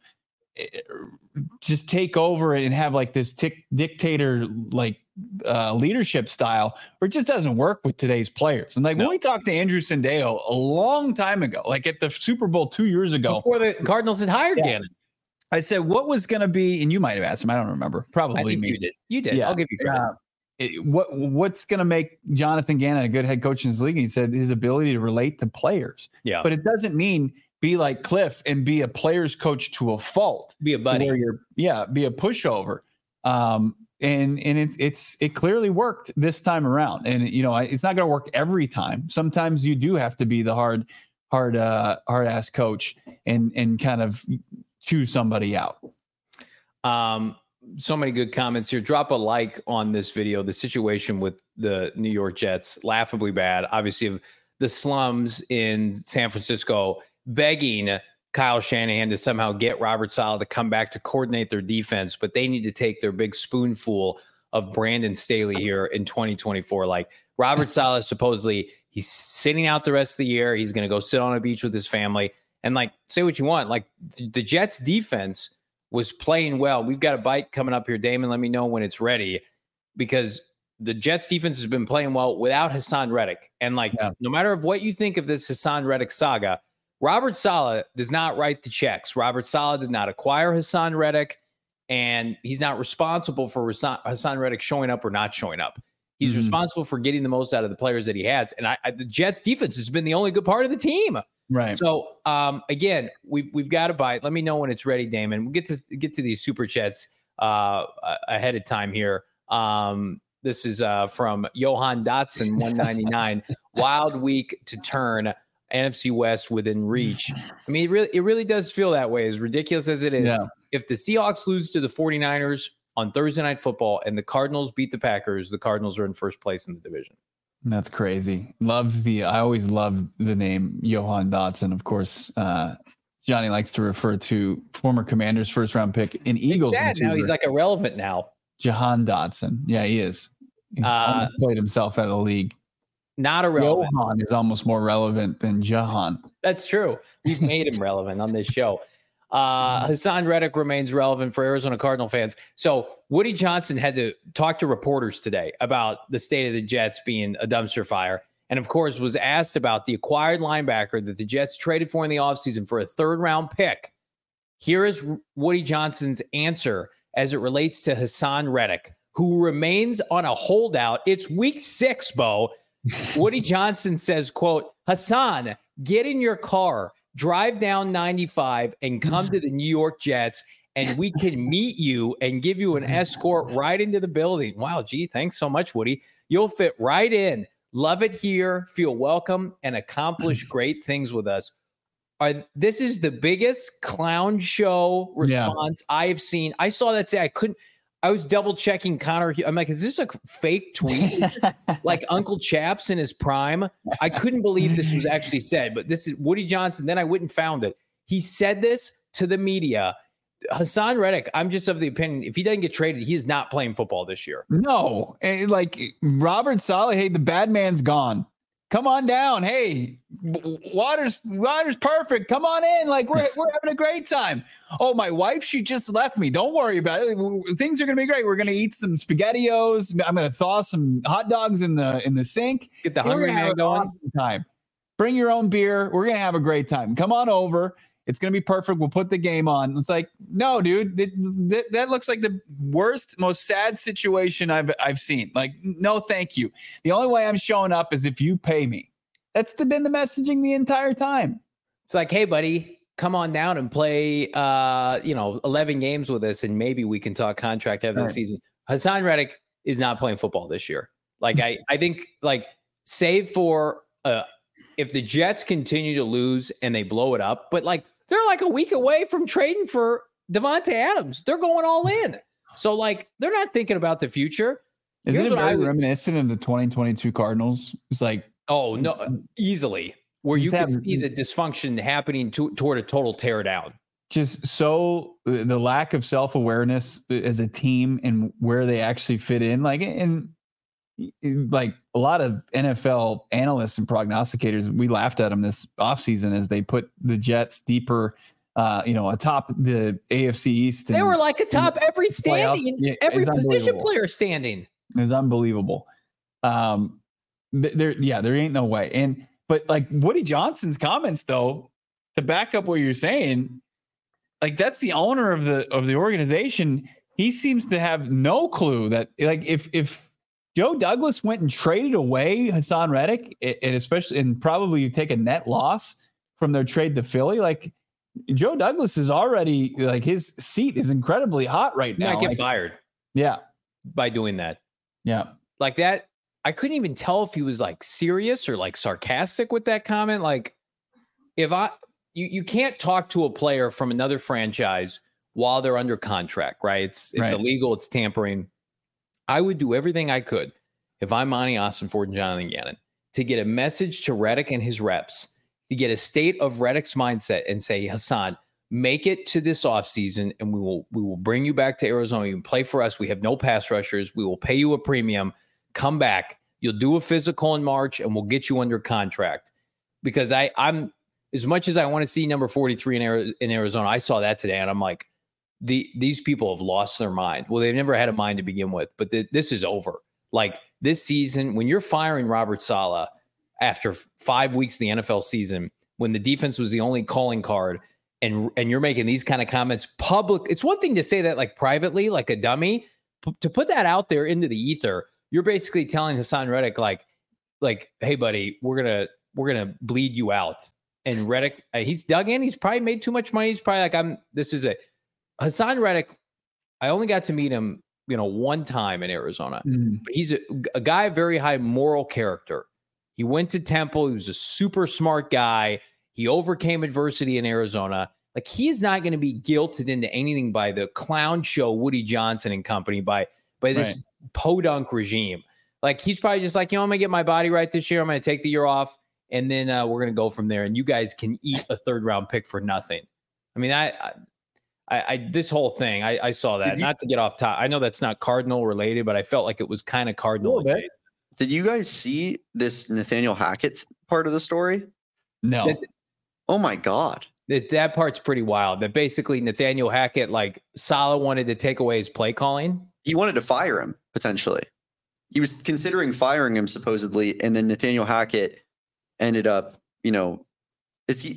just take over and have like this tic- dictator like uh, leadership style, where it just doesn't work with today's players. And like no. when we talked to Andrew Sandeo a long time ago, like at the Super Bowl two years ago, before the Cardinals had hired yeah. Gannon, I said, what was going to be, and you might have asked him, I don't remember, probably I think me. You did. You did. Yeah. I'll give you credit. Uh, it, what What's going to make Jonathan Gannon a good head coach in this league? He said his ability to relate to players. Yeah. But it doesn't mean be like Cliff and be a player's coach to a fault. Be a buddy. Where you're, yeah, be a pushover. Um, and and it's it's it clearly worked this time around. And you know, it's not going to work every time. Sometimes you do have to be the hard, hard, uh, hard ass coach and and kind of choose somebody out. Um, so many good comments here. Drop a like on this video. The situation with the New York Jets, laughably bad. Obviously, the slums in San Francisco begging Kyle Shanahan to somehow get Robert Saleh to come back to coordinate their defense, but they need to take their big spoonful of Brandon Staley here in twenty twenty-four. Like Robert Saleh, supposedly he's sitting out the rest of the year. He's going to go sit on a beach with his family and like say what you want. Like the Jets defense was playing well. We've got a bite coming up here, Damon. Let me know when it's ready, because the Jets defense has been playing well without Hassan Reddick. And like, yeah. no matter of what you think of this Hassan Reddick saga, Robert Saleh does not write the checks. Robert Saleh did not acquire Hassan Reddick, and he's not responsible for Hassan Reddick showing up or not showing up. He's mm-hmm. responsible for getting the most out of the players that he has. And I, I, the Jets defense has been the only good part of the team. Right. So um, again, we've we've got a bite. Let me know when it's ready, Damon. We'll get to get to these super chats uh, ahead of time here. Um, this is uh, from Johan Dotson, one ninety-nine. Wild week to turn N F C West within reach. I mean, it really, it really does feel that way, as ridiculous as it is. Yeah. If the Seahawks lose to the 49ers on Thursday Night Football and the Cardinals beat the Packers, the Cardinals are in first place in the division. That's crazy. Love the, I always love the name Johan Dotson. Of course, uh, Johnny likes to refer to former Commanders first round pick in Eagles. Now he's like irrelevant now. Jahan Dotson. Yeah, he is. He's uh, played himself out of the league. Not irrelevant. Johan is almost more relevant than Jahan. That's true. We've made him relevant on this show. Uh, Hassan Reddick remains relevant for Arizona Cardinal fans. So Woody Johnson had to talk to reporters today about the state of the Jets being a dumpster fire. And of course was asked about the acquired linebacker that the Jets traded for in the offseason for a third round pick. Here is Woody Johnson's answer as it relates to Hassan Reddick, who remains on a holdout. It's week six, Bo. Woody Johnson says, quote, Hassan, get in your car, drive down ninety-five, and come to the New York Jets, and we can meet you and give you an escort right into the building. Wow, gee, thanks so much, Woody. You'll fit right in. Love it here. Feel welcome and accomplish great things with us. Are, this is the biggest clown show response yeah. I have seen. I saw that today. I couldn't. I was double checking Connor. I'm like, is this a fake tweet? Is this like Uncle Chaps in his prime? I couldn't believe this was actually said. But this is Woody Johnson. Then I went and found it. He said this to the media. Hassan Reddick, I'm just of the opinion, if he doesn't get traded, he is not playing football this year. No, like Robert Saleh, hey, the bad man's gone. Come on down. Hey, water's water's perfect. Come on in. Like we're we're having a great time. Oh, my wife, she just left me. Don't worry about it. Things are gonna be great. We're gonna eat some SpaghettiOs. I'm gonna thaw some hot dogs in the in the sink. Get the hungry man going. Awesome time. Bring your own beer. We're gonna have a great time. Come on over. It's going to be perfect. We'll put the game on. It's like, no, dude, it, that, that looks like the worst, most sad situation I've I've seen. Like, no, thank you. The only way I'm showing up is if you pay me. That's the, been the messaging the entire time. It's like, hey, buddy, come on down and play, uh, you know, eleven games with us, and maybe we can talk contract after right. the season. Hassan Reddick is not playing football this year. Like, I, I think, like, save for uh, if the Jets continue to lose and they blow it up, but like, they're like a week away from trading for Devontae Adams. They're going all in. So, like, they're not thinking about the future. Isn't it very would, reminiscent of the twenty twenty-two Cardinals? It's like, oh, no, easily. Where you can see the dysfunction happening to, toward a total teardown. Just so the lack of self-awareness as a team and where they actually fit in. Like, and like a lot of N F L analysts and prognosticators, we laughed at them this offseason as they put the Jets deeper, uh, you know, atop the A F C East. They were like atop every standing, yeah, every position player standing. It was unbelievable. Um, there, yeah, there ain't no way. And but like Woody Johnson's comments, though, to back up what you're saying, like that's the owner of the of the organization. He seems to have no clue that, like, if if Joe Douglas went and traded away Hassan Reddick, and especially, and probably you take a net loss from their trade to Philly, like Joe Douglas is already, like, his seat is incredibly hot right now. He might get like, fired. Yeah. By doing that. Yeah. Like that. I couldn't even tell if he was like serious or like sarcastic with that comment. Like, if I, you, you can't talk to a player from another franchise while they're under contract, right? It's, it's right. illegal. It's tampering. I would do everything I could if I'm Monty Ossenfort and Jonathan Gannon to get a message to Reddick and his reps, to get a state of Reddick's mindset and say, Hassan, make it to this offseason and we will we will bring you back to Arizona. You can play for us. We have no pass rushers. We will pay you a premium. Come back. You'll do a physical in March and we'll get you under contract. Because I, I'm as much as I want to see number forty-three in, in Arizona, I saw that today and I'm like, The these people have lost their mind. Well, they've never had a mind to begin with, but the, this is over. Like this season, when you're firing Robert Saleh after f- five weeks of the N F L season, when the defense was the only calling card, and and you're making these kind of comments public, it's one thing to say that like privately, like a dummy. P- to put that out there into the ether, you're basically telling Hassan Reddick, like, like, hey, buddy, we're gonna we're gonna bleed you out. And Reddick, uh, he's dug in. He's probably made too much money. He's probably like, I'm. This is it. Hassan Reddick, I only got to meet him, you know, one time in Arizona, mm. but he's a, a guy of very high moral character. He went to Temple. He was a super smart guy. He overcame adversity in Arizona. Like, he is not going to be guilted into anything by the clown show Woody Johnson and company, by by this right. podunk regime. Like, he's probably just like, you know, I'm going to get my body right this year. I'm going to take the year off, and then uh, we're going to go from there. And you guys can eat a third round pick for nothing. I mean, I, I I, I this whole thing, I, I saw that. You, not to get off top, I know that's not Cardinal related, but I felt like it was kind of Cardinal adjacent. Did you guys see this Nathaniel Hackett part of the story? No. That, oh my God. That that part's pretty wild. That basically Nathaniel Hackett, like Saleh wanted to take away his play calling. He wanted to fire him potentially. He was considering firing him supposedly, and then Nathaniel Hackett ended up, you know, is he?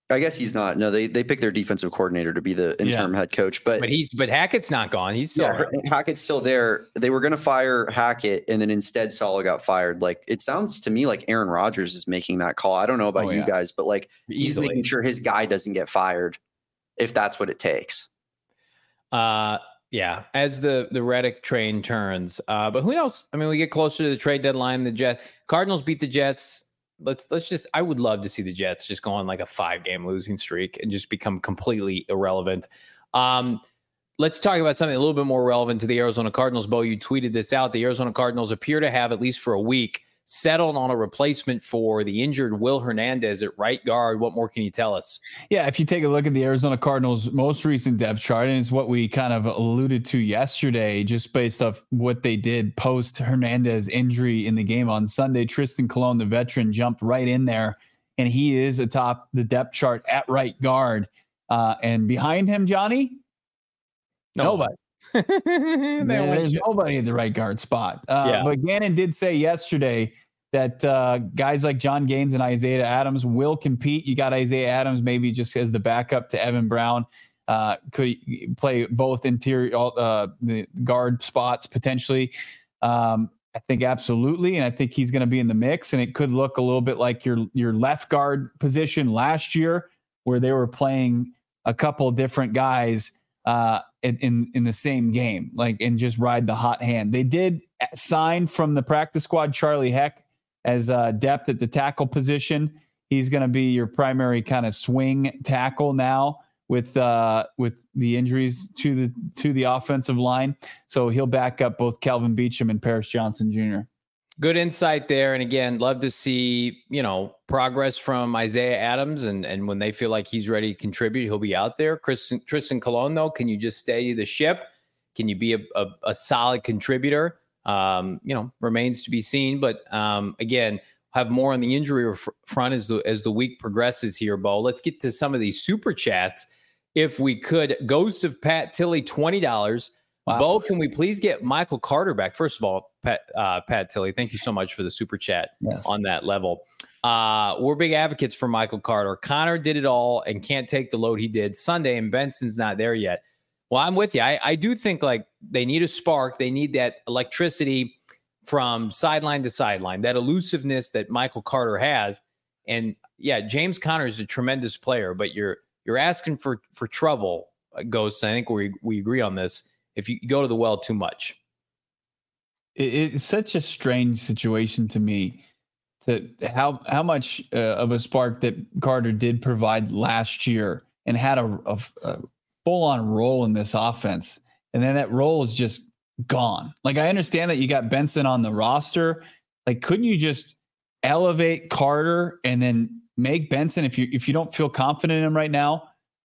I guess he's not. No, they they picked their defensive coordinator to be the interim yeah. head coach. But but he's but Hackett's not gone. He's still yeah, Hackett's still there. They were going to fire Hackett, and then instead Saleh got fired. Like it sounds to me like Aaron Rodgers is making that call. I don't know about oh, you yeah. guys, but like Easily. he's making sure his guy doesn't get fired if that's what it takes. Uh, yeah. As the the Reddick train turns, uh, but who knows? I mean, we get closer to the trade deadline. The Jets Cardinals beat the Jets. Let's let's just. I would love to see the Jets just go on like a five game losing streak and just become completely irrelevant. Um, let's talk about something a little bit more relevant to the Arizona Cardinals. Bo, you tweeted this out. The Arizona Cardinals appear to have, at least for a week, settled on a replacement for the injured Will Hernandez at right guard. What more can you tell us? Yeah, if you take a look at the Arizona Cardinals' most recent depth chart, and it's what we kind of alluded to yesterday, just based off what they did post Hernandez injury in the game on Sunday, Tristan Colon, the veteran, jumped right in there, and he is atop the depth chart at right guard. Uh, and behind him, Johnny, no. nobody. Man, there's nobody at the right guard spot. Uh, yeah. But Gannon did say yesterday that uh, guys like John Gaines and Isaiah Adams will compete. You got Isaiah Adams maybe just as the backup to Evan Brown. Uh, could play both interior uh, the guard spots potentially. Um, I think absolutely, and I think he's going to be in the mix. And it could look a little bit like your your left guard position last year, where they were playing a couple different guys uh, in, in, in the same game, like, and just ride the hot hand. They did sign from the practice squad Charlie Heck as uh, depth at the tackle position. He's going to be your primary kind of swing tackle now with uh, with the injuries to the to the offensive line. So he'll back up both Calvin Beachum and Paris Johnson Junior Good insight there. And again, love to see, you know, progress from Isaiah Adams. And, and when they feel like he's ready to contribute, he'll be out there. Tristan, Tristan Colon, though, can you just steady the ship? Can you be a, a, a solid contributor? Um, you know, remains to be seen. But um, again, have more on the injury front as the, as the week progresses here, Bo. Let's get to some of these super chats. If we could, Ghost of Pat Tilley, twenty dollars. Wow. Bo, can we please get Michael Carter back? First of all, Pat, uh, Pat Tilley, thank you so much for the super chat yes. on that level. Uh, we're big advocates for Michael Carter. Connor did it all and can't take the load he did Sunday, and Benson's not there yet. Well, I'm with you. I, I do think like they need a spark. They need that electricity from sideline to sideline, that elusiveness that Michael Carter has. And yeah, James Conner is a tremendous player, but you're you're asking for for trouble, Ghost. I think we we agree on this. If you go to the well too much. It, it's such a strange situation to me to how how much uh, of a spark that Carter did provide last year and had a, a, a full-on role in this offense. And then that role is just gone. Like, I understand that you got Benson on the roster. Like, couldn't you just elevate Carter and then make Benson, if you if you don't feel confident in him right now,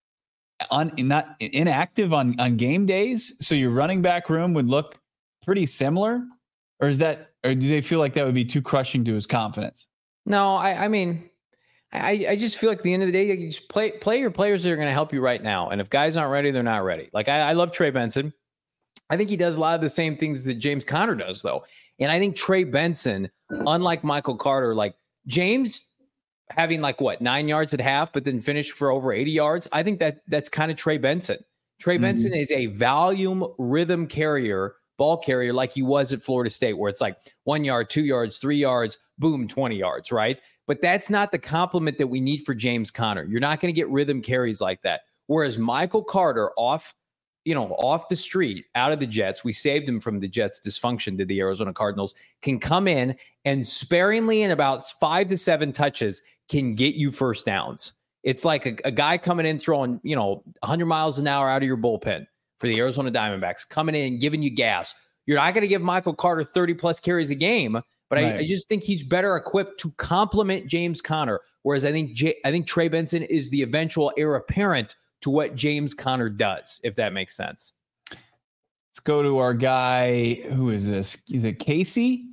on not inactive on, on game days, so your running back room would look pretty similar? Or is that, or do they feel like that would be too crushing to his confidence? No, I, I mean, I, I just feel like at the end of the day, you just play play your players that are going to help you right now. And if guys aren't ready, they're not ready. Like, I, I love Trey Benson. I think he does a lot of the same things that James Conner does, though. And I think Trey Benson, unlike Michael Carter, like James having like what, nine yards at half, but then finish for over eighty yards. I think that that's kind of Trey Benson. Trey mm-hmm. Benson is a volume rhythm carrier, ball carrier, like he was at Florida State, where it's like one yard, two yards, three yards, boom, twenty yards, right? But that's not the compliment that we need for James Conner. You're not going to get rhythm carries like that. Whereas Michael Carter off, you know, off the street, out of the Jets, we saved him from the Jets' dysfunction to the Arizona Cardinals, can come in and sparingly in about five to seven touches can get you first downs. It's like a, a guy coming in throwing, you know, one hundred miles an hour out of your bullpen for the Arizona Diamondbacks, coming in, giving you gas. You're not going to give Michael Carter thirty plus carries a game, but right. I, I just think he's better equipped to complement James Conner. Whereas I think J, I think Trey Benson is the eventual heir apparent to what James Conner does, if that makes sense. Let's go to our guy. Who is this? Is it Casey?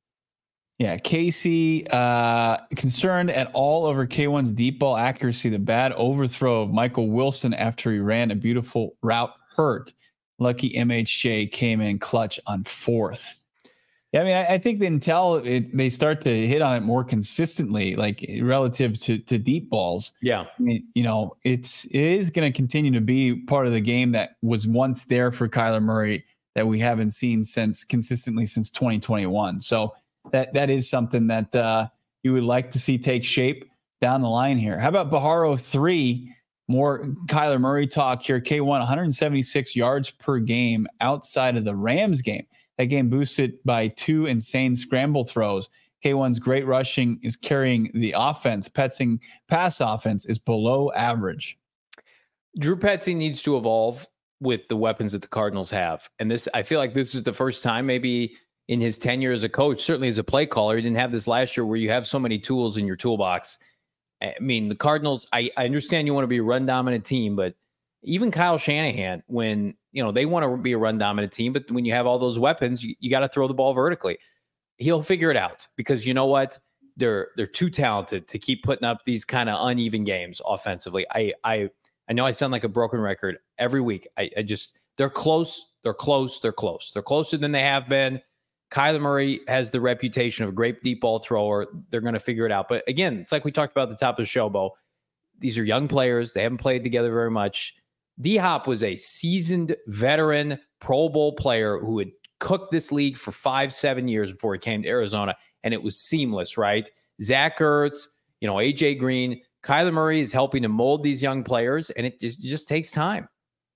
Yeah, Casey. Uh, concerned at all over K one's deep ball accuracy. The bad overthrow of Michael Wilson after he ran a beautiful route hurt. Lucky M H J came in clutch on fourth. Yeah, I mean, I, I think until it, they start to hit on it more consistently, like relative to to deep balls. Yeah, I mean, you know, it's it is going to continue to be part of the game that was once there for Kyler Murray that we haven't seen since consistently since twenty twenty-one. So that that is something that uh, you would like to see take shape down the line here. How about Baharo three? More Kyler Murray talk here. K one, one hundred seventy-six yards per game outside of the Rams game. That game boosted by two insane scramble throws. K one's great rushing is carrying the offense. Petzing pass offense is below average. Drew Petzing needs to evolve with the weapons that the Cardinals have. And this, I feel like this is the first time maybe in his tenure as a coach, certainly as a play caller, he didn't have this last year where you have so many tools in your toolbox. I mean, the Cardinals, I, I understand you want to be a run dominant team, but even Kyle Shanahan, when, you know, they want to be a run dominant team, but when you have all those weapons, you, you got to throw the ball vertically. He'll figure it out because you know what? They're, they're too talented to keep putting up these kind of uneven games offensively. I, I, I know I sound like a broken record every week. I, I just, they're close. They're close. They're close. They're closer than they have been. Kyler Murray has the reputation of a great deep ball thrower. They're going to figure it out. But again, it's like we talked about at the top of the show, Bo. These are young players. They haven't played together very much. D-Hop was a seasoned veteran Pro Bowl player who had cooked this league for five, seven years before he came to Arizona, and it was seamless, right? Zach Ertz, you know, A J Green, Kyler Murray is helping to mold these young players, and it just, it just takes time.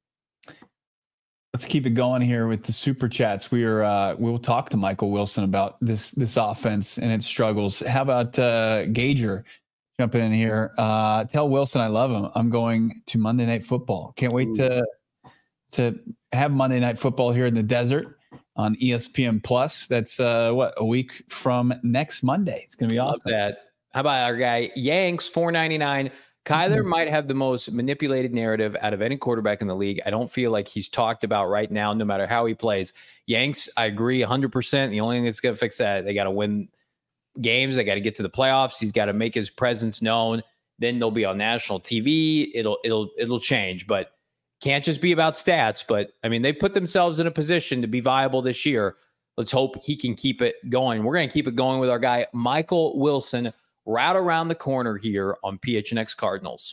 Let's keep it going here with the super chats. We are uh, we'll talk to Michael Wilson about this this offense and its struggles. How about uh, Gager jumping in here? Uh, tell Wilson I love him. I'm going to Monday Night Football. Can't wait Ooh. to to have Monday Night Football here in the desert on E S P N Plus. That's uh, what a week from next Monday. It's gonna be awesome. Love that. How about our guy Yanks four ninety-nine? Kyler might have the most manipulated narrative out of any quarterback in the league. I don't feel like he's talked about right now, no matter how he plays. Yanks, I agree one hundred percent. The only thing that's going to fix that, they got to win games. They got to get to the playoffs. He's got to make his presence known. Then they'll be on national T V. It'll it'll it'll change, but can't just be about stats. But I mean, they put themselves in a position to be viable this year. Let's hope he can keep it going. We're going to keep it going with our guy Michael Wilson, right around the corner here on P H N X Cardinals.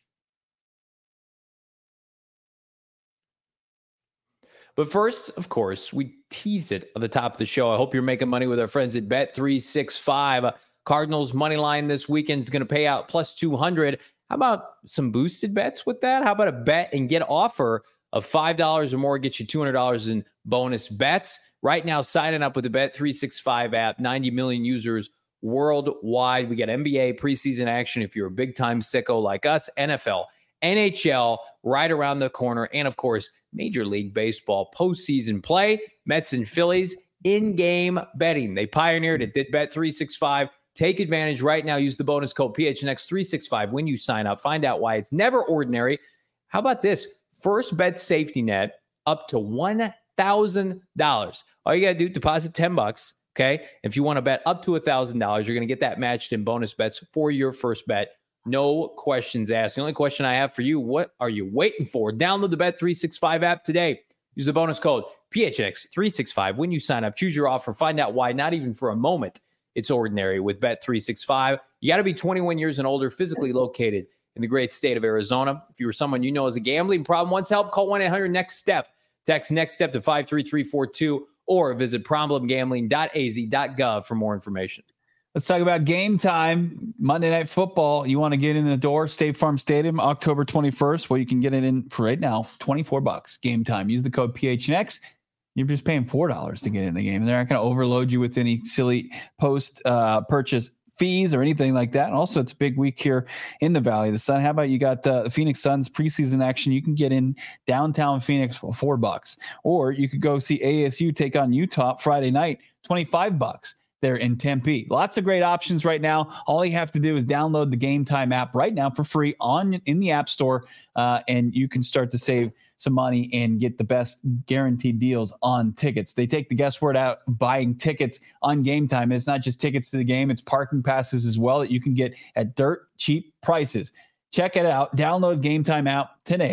But first, of course, we teased it at the top of the show. I hope you're making money with our friends at Bet three sixty-five. Cardinals money line this weekend is going to pay out plus two hundred. How about some boosted bets with that? How about a bet and get offer of five dollars or more, get you two hundred dollars in bonus bets? Right now, signing up with the Bet three sixty-five app, ninety million users worldwide. We got N B A preseason action if you're a big-time sicko like us, N F L, N H L right around the corner, and of course, Major League Baseball postseason play. Mets and Phillies in-game betting. They pioneered it. Did Bet three sixty-five. Take advantage right now. Use the bonus code P H N X three sixty-five when you sign up. Find out why it's never ordinary. How about this? First bet safety net up to one thousand dollars. All you got to do, deposit ten bucks. Okay. If you want to bet up to one thousand dollars, you're going to get that matched in bonus bets for your first bet. No questions asked. The only question I have for you, what are you waiting for? Download the Bet three sixty-five app today. Use the bonus code P H X three sixty-five when you sign up. Choose your offer. Find out why, not even for a moment, it's ordinary with Bet three sixty-five. You got to be twenty-one years and older, physically located in the great state of Arizona. If you were someone you know has a gambling problem, wants help, call one eight hundred next step. Text next step to five three three four two or visit problem gambling dot a z dot gov for more information. Let's talk about game time. Monday Night Football. You want to get in the door, State Farm Stadium, October twenty-first. Well, you can get it in for right now, twenty-four bucks. Game time. Use the code P H N X. You're just paying four dollars to get in the game. They're not going to overload you with any silly post uh, purchase fees or anything like that. And also, it's a big week here in the Valley of the Sun. How about you got the Phoenix Suns preseason action? You can get in downtown Phoenix for four bucks, or you could go see A S U take on Utah Friday night, twenty-five bucks. There in Tempe. Lots of great options right now. All you have to do is download the Game Time app right now for free on in the App Store, uh, and you can start to save some money and get the best guaranteed deals on tickets. They take the guesswork out buying tickets on Game Time. It's not just tickets to the game, it's parking passes as well that you can get at dirt cheap prices. Check it out. Download Game Time app today.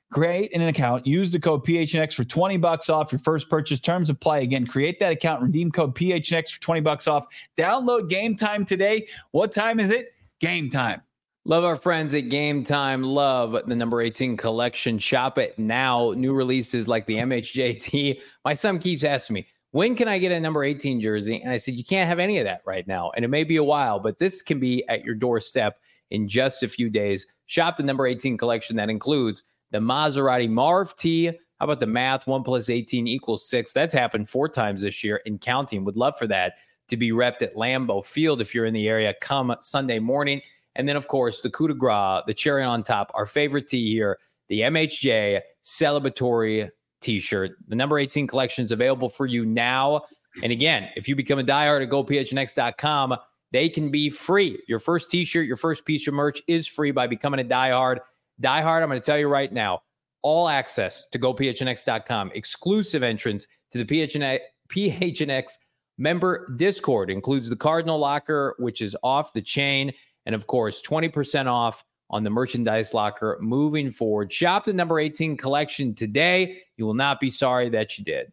create an account, use the code P H N X for twenty bucks off your first purchase. Terms apply. Again, create that account, redeem code P H N X for twenty bucks off. Download Game Time today. What time is it? Game Time. Love our friends at Game Time. Love the number eighteen collection. Shop it now. New releases like the M H J T. My son keeps asking me, when can I get a number eighteen jersey? And I said, you can't have any of that right now. And it may be a while, but this can be at your doorstep in just a few days. Shop the number eighteen collection that includes the Maserati Marv T. How about the math? One plus eighteen equals six. That's happened four times this year and counting. Would love for that to be repped at Lambeau Field if you're in the area come Sunday morning. And then, of course, the coup de grace, the cherry on top, our favorite tee here, the M H J celebratory t-shirt. The number eighteen collection is available for you now. And again, if you become a diehard at go P H N X dot com, they can be free. Your first t-shirt, your first piece of merch is free by becoming a diehard. Diehard, I'm going to tell you right now, all access to go P H N X dot com, exclusive entrance to the P H N X, P H N X member Discord, includes the Cardinal Locker, which is off the chain, and of course, twenty percent off on the merchandise locker moving forward. Shop the number eighteen collection today. You will not be sorry that you did.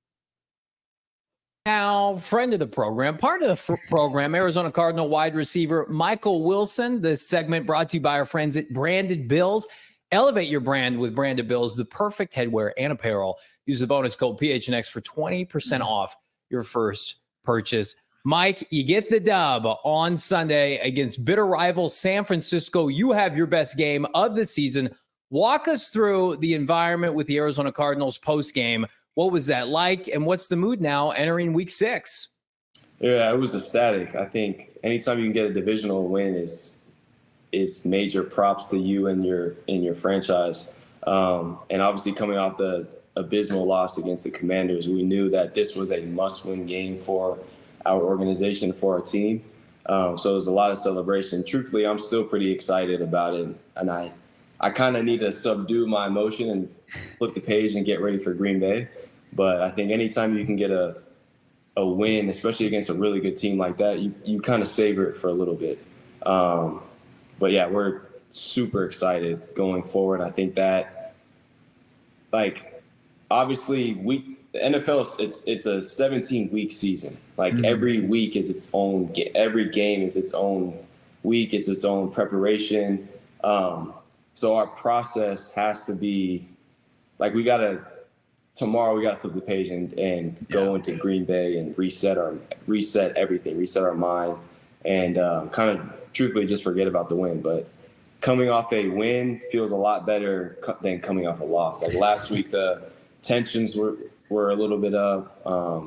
Now, friend of the program, part of the f- program, Arizona Cardinal wide receiver Michael Wilson. This segment brought to you by our friends at Branded Bills. Elevate your brand with Branded Bills, the perfect headwear and apparel. Use the bonus code P H N X for twenty percent off your first purchase. Mike, you get the dub on Sunday against bitter rival San Francisco. You have your best game of the season. Walk us through the environment with the Arizona Cardinals post-game. What was that like, and what's the mood now entering week six? Yeah, it was ecstatic. I think anytime you can get a divisional win is is major props to you and your in your franchise. Um, and obviously coming off the abysmal loss against the Commanders, we knew that this was a must-win game for our organization, for our team. Um, so it was a lot of celebration. Truthfully, I'm still pretty excited about it, and I I kind of need to subdue my emotion and flip the page and get ready for Green Bay. But I think anytime you can get a a win, especially against a really good team like that, you, you kind of savor it for a little bit. Um, but, yeah, we're super excited going forward. I think that, like, obviously, we the N F L, it's it's a seventeen-week season. Like, mm-hmm. every week is its own – every game is its own week. It's its own preparation. Um, so our process has to be – like, we got to – tomorrow we got to flip the page and, and go yeah. into Green Bay and reset our reset everything, reset our mind, and um, kind of truthfully just forget about the win. But coming off a win feels a lot better co- than coming off a loss. Like last week, the tensions were, were a little bit up. Um,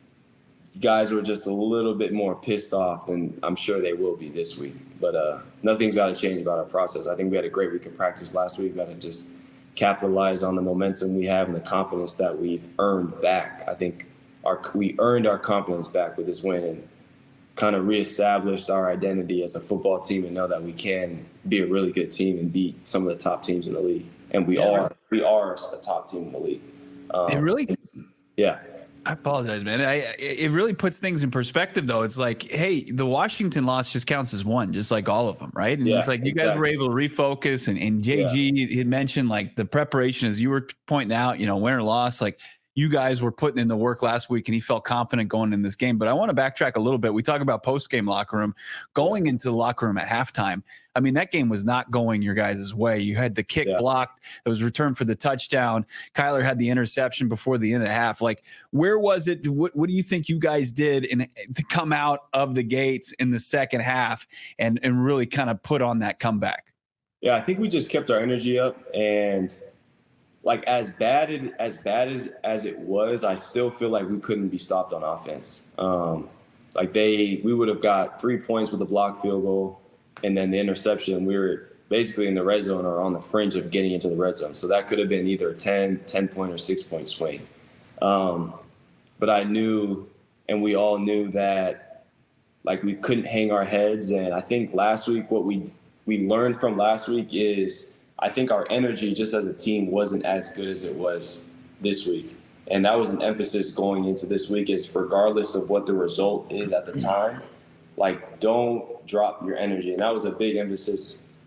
guys were just a little bit more pissed off, and I'm sure they will be this week. But uh, nothing's got to change about our process. I think we had a great week of practice last week. Got to just capitalize on the momentum we have and the confidence that we've earned back. I think our we earned our confidence back with this win and kind of reestablished our identity as a football team and know that we can be a really good team and beat some of the top teams in the league. And we yeah, are we are a top team in the league. Um, it really, yeah. I apologize, man. I, it really puts things in perspective, though. It's like, hey, the Washington loss just counts as one, just like all of them, right? And yeah, it's like you exactly. guys were able to refocus. And, and J G yeah. had mentioned, like, the preparation, as you were pointing out, you know, win or loss, like, you guys were putting in the work last week and he felt confident going in this game. But I want to backtrack a little bit. We talk about post-game locker room, going into the locker room at halftime. I mean, that game was not going your guys' way. You had the kick yeah. blocked. It was returned for the touchdown. Kyler had the interception before the end of the half. Like, where was it? What, what do you think you guys did in, to come out of the gates in the second half and, and really kind of put on that comeback? Yeah, I think we just kept our energy up, and like as bad it, as bad as as it was, I still feel like we couldn't be stopped on offense. Um, like they, we would have got three points with a blocked field goal, and then the interception. We were basically in the red zone or on the fringe of getting into the red zone. So that could have been either a ten, ten point or six point swing. Um, but I knew, and we all knew that, like we couldn't hang our heads. And I think last week, what we we learned from last week is, I think our energy just as a team wasn't as good as it was this week. And that was an emphasis going into this week, is regardless of what the result is at the time, like don't drop your energy. And that was a big emphasis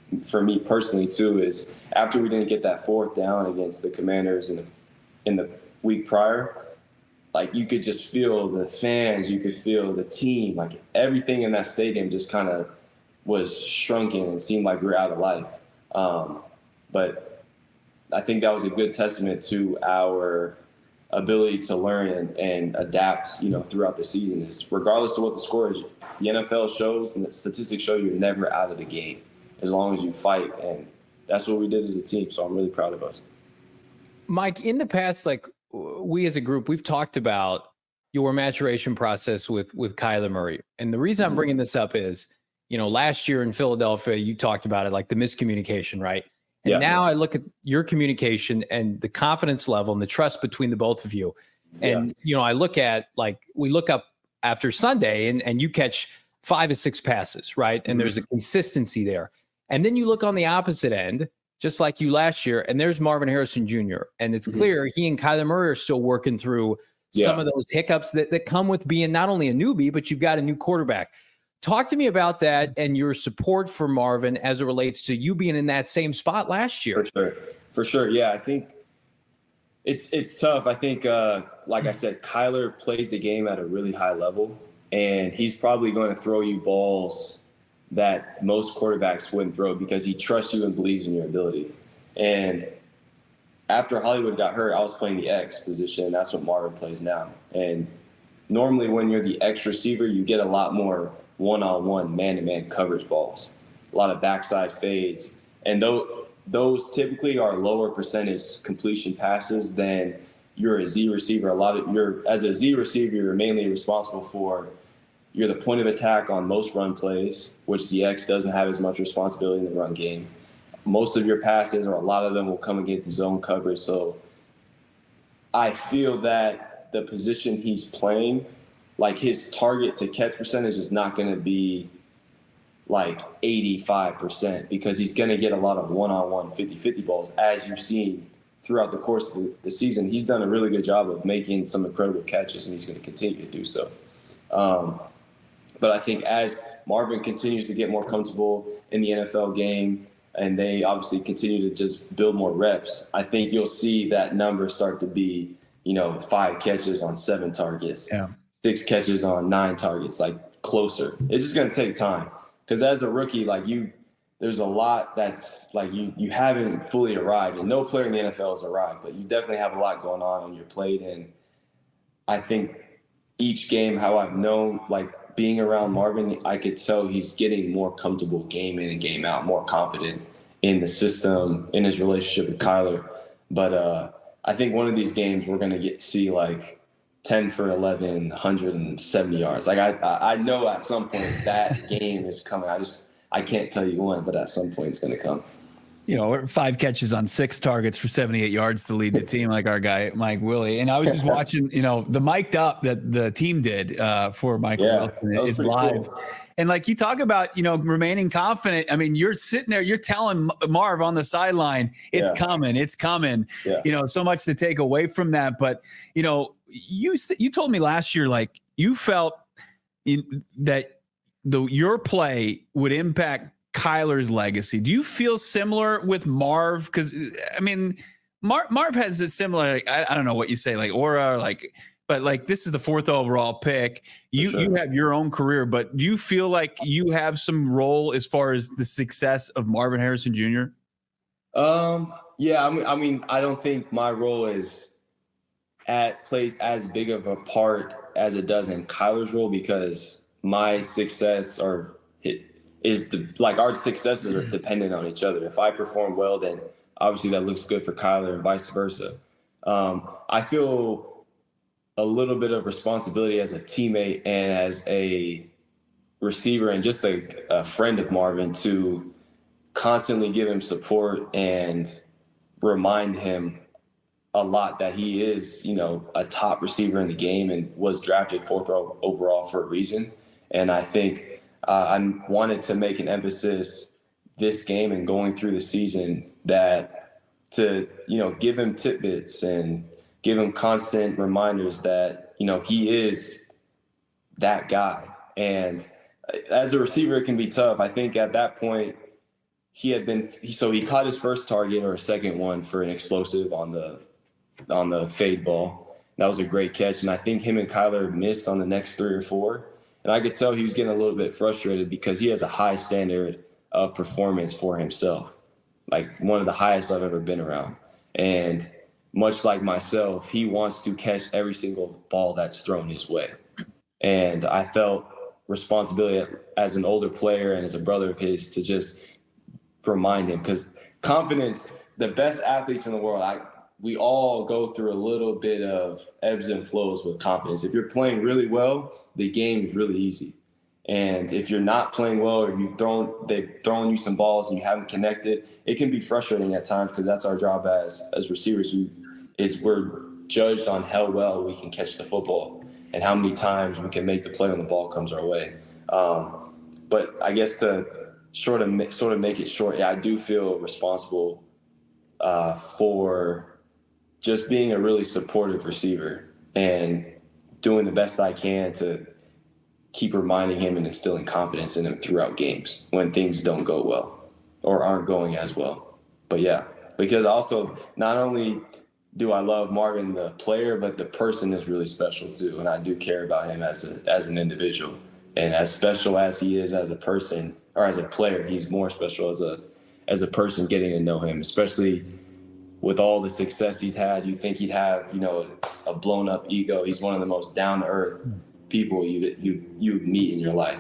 for me personally too, is after we didn't get that fourth down against the Commanders in the, in the week prior, like you could just feel the fans, you could feel the team, like everything in that stadium just kind of was shrunken and seemed like we were out of life. Um, but I think that was a good testament to our ability to learn and, and adapt, you know, throughout the season. Is regardless of what the score is, the N F L shows and the statistics show you're never out of the game as long as you fight. And that's what we did as a team. So I'm really proud of us. Mike, in the past, like we as a group, we've talked about your maturation process with, with Kyler Murray. And the reason I'm bringing this up is, you know, last year in Philadelphia, you talked about it, like the miscommunication, right? And yeah. Now I look at your communication and the confidence level and the trust between the both of you. And, yeah. you know, I look at, like, we look up after Sunday and, and you catch five or six passes, right? And mm-hmm. there's a consistency there. And then you look on the opposite end, just like you last year, and there's Marvin Harrison Junior And it's mm-hmm. clear he and Kyler Murray are still working through yeah. some of those hiccups that, that come with being not only a newbie, but you've got a new quarterback. Talk to me about that and your support for Marvin as it relates to you being in that same spot last year. For sure. For sure. Yeah, I think it's it's tough. I think, uh, like I said, Kyler plays the game at a really high level, and he's probably going to throw you balls that most quarterbacks wouldn't throw because he trusts you and believes in your ability. And after Hollywood got hurt, I was playing the X position, and that's what Marvin plays now. And normally when you're the X receiver, you get a lot more one-on-one, man-to-man coverage balls, a lot of backside fades. And those, those typically are lower percentage completion passes than you're a Z receiver. A lot of you're as a Z receiver, you're mainly responsible for, you're the point of attack on most run plays, which the X doesn't have as much responsibility in the run game. Most of your passes, or a lot of them, will come against the zone coverage. So I feel that the position he's playing, like his target to catch percentage is not going to be like eighty-five percent because he's going to get a lot of one-on-one fifty-fifty balls, as you've seen throughout the course of the season. He's done a really good job of making some incredible catches, and he's going to continue to do so. Um, but I think as Marvin continues to get more comfortable in the N F L game, and they obviously continue to just build more reps, I think you'll see that number start to be, you know, five catches on seven targets. Yeah. Six catches on nine targets, like closer. It's just going to take time because as a rookie, like you, there's a lot that's like you you haven't fully arrived, and no player in the N F L has arrived, but you definitely have a lot going on on your plate. And I think each game, how I've known, like being around Marvin, I could tell he's getting more comfortable game in and game out, more confident in the system, in his relationship with Kyler. But uh, I think one of these games we're going to get to see like ten for eleven, one hundred seventy yards. Like I, I know at some point that game is coming. I just, I can't tell you when, but at some point it's going to come. You know, five catches on six targets for seventy-eight yards to lead the team, like our guy Mike Willie. And I was just watching, you know, the mic'd up that the team did uh, for Michael yeah, Wilson. It's live. Cool. And like you talk about, you know, remaining confident. I mean, you're sitting there, you're telling Marv on the sideline, it's yeah. coming, it's coming. Yeah. You know, so much to take away from that. But, you know, you you told me last year, like you felt in, that the your play would impact Kyler's legacy. Do you feel similar with Marv? Because I mean, Mar- Marv has a similar, like, I, I don't know what you say, like aura, like, but like this is the fourth overall pick. You sure. you have your own career, but do you feel like you have some role as far as the success of Marvin Harrison Junior? Um, yeah, I mean, I mean, I don't think my role is at plays as big of a part as it does in Kyler's role, because my success or it is the, like our successes are dependent on each other. If I perform well, then obviously that looks good for Kyler and vice versa. Um, I feel a little bit of responsibility as a teammate and as a receiver and just a, a friend of Marvin to constantly give him support and remind him a lot that he is, you know, a top receiver in the game and was drafted fourth overall for a reason. And I think uh, I wanted to make an emphasis this game and going through the season that to, you know, give him tidbits and give him constant reminders that, you know, he is that guy. And as a receiver, it can be tough. I think at that point, he had been so he caught his first target or a second one for an explosive on the on the fade ball. That was a great catch, and I think him and Kyler missed on the next three or four. And I could tell he was getting a little bit frustrated because he has a high standard of performance for himself, like one of the highest I've ever been around. And much like myself, he wants to catch every single ball that's thrown his way. And I felt responsibility as an older player and as a brother of his to just remind him, because confidence, the best athletes in the world, I we all go through a little bit of ebbs and flows with confidence. If you're playing really well, the game is really easy. And if you're not playing well, or you've thrown, they've thrown you some balls and you haven't connected, it can be frustrating at times, because that's our job as as receivers. We, is we're judged on how well we can catch the football and how many times we can make the play when the ball comes our way. Um, but I guess to sort of sort of make it short, yeah, I do feel responsible uh, for just being a really supportive receiver and doing the best I can to keep reminding him and instilling confidence in him throughout games when things don't go well or aren't going as well. But yeah, because also not only do I love Marvin, the player, but the person is really special too. And I do care about him as a, as an individual. And as special as he is as a person or as a player, he's more special as a, as a person, getting to know him, especially with all the success he's had. You think he'd have, you know, a blown up ego. He's one of the most down to earth people you you you meet in your life.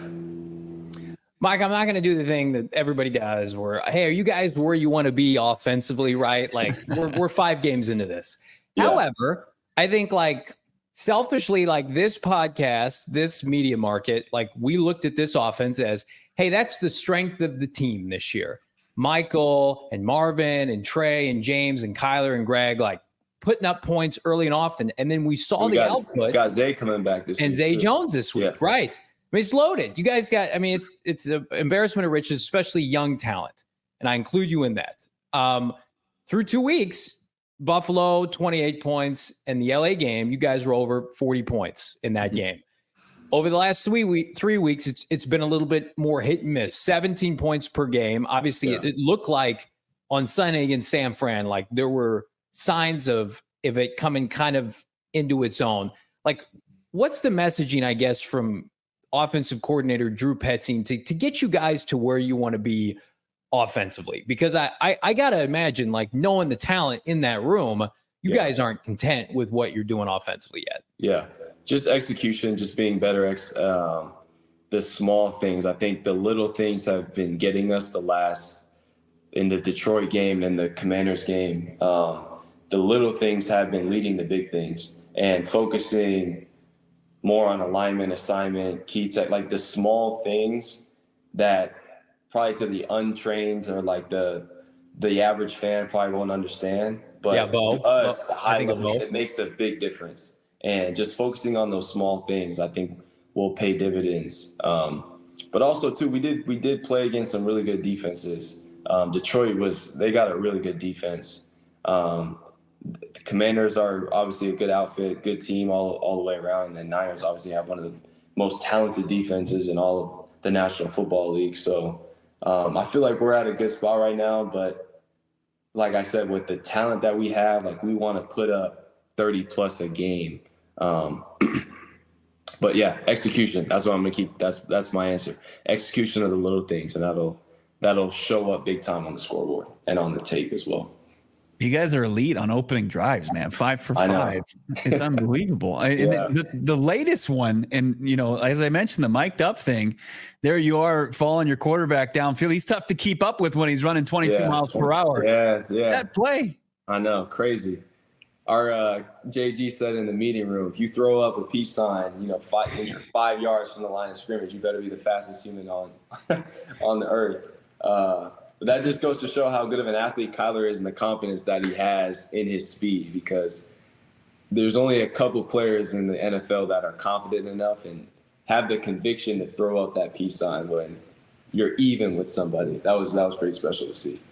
Mike, I'm not going to do the thing that everybody does where, hey, are you guys where you want to be offensively, right? Like we're we're five games into this. Yeah. However, I think like selfishly, like this podcast, this media market, like we looked at this offense as, hey, that's the strength of the team this year. Michael and Marvin and Trey and James and Kyler and Greg, like putting up points early and often. And then we saw we the got, output. Got Zay coming back this and week. And Zay too. Jones this week. Yeah. Right. I mean, it's loaded. You guys got, I mean, it's, it's an embarrassment of riches, especially young talent. And I include you in that. Um, through two weeks, Buffalo, twenty-eight points, and the L A game, you guys were over forty points in that game. Over the last three week, three weeks, it's it's been a little bit more hit and miss. seventeen points per game. Obviously, yeah. it, it looked like on Sunday against San Fran, like there were signs of, of it coming kind of into its own. Like, what's the messaging, I guess, from offensive coordinator Drew Petzing to, to get you guys to where you want to be offensively? Because I, I, I got to imagine, like, knowing the talent in that room, you yeah. guys aren't content with what you're doing offensively yet. Yeah. Just execution, just being better. Ex- um, the small things. I think the little things have been getting us the last in the Detroit game and the Commanders game. Um, the little things have been leading the big things, and focusing more on alignment, assignment, key tech, like the small things that probably to the untrained or like the the average fan probably won't understand. But yeah, Bo, to us, Bo, the high level, it makes a big difference. And just focusing on those small things, I think, will pay dividends. Um, but also, too, we did we did play against some really good defenses. Um, Detroit was they got a really good defense. Um, the Commanders are obviously a good outfit, good team all all the way around. And the Niners obviously have one of the most talented defenses in all of the National Football League. So um, I feel like we're at a good spot right now. But like I said, with the talent that we have, like we want to put up thirty plus a game. Um, but yeah, execution. That's what I'm gonna keep. That's that's my answer. Execution of the little things, and that'll that'll show up big time on the scoreboard and on the tape as well. You guys are elite on opening drives, man. Five for five. It's unbelievable. yeah. And the, the latest one, and you know, as I mentioned, the mic'd up thing. There you are, following your quarterback downfield. He's tough to keep up with when he's running twenty-two yeah, miles per hour. Yeah, yeah. That play. I know, crazy. Our uh, J G said in the meeting room, if you throw up a peace sign, you know, five, when you're five yards from the line of scrimmage, you better be the fastest human on on the earth. Uh, but that just goes to show how good of an athlete Kyler is and the confidence that he has in his speed, because there's only a couple players in the N F L that are confident enough and have the conviction to throw up that peace sign when you're even with somebody. That was that was pretty special to see.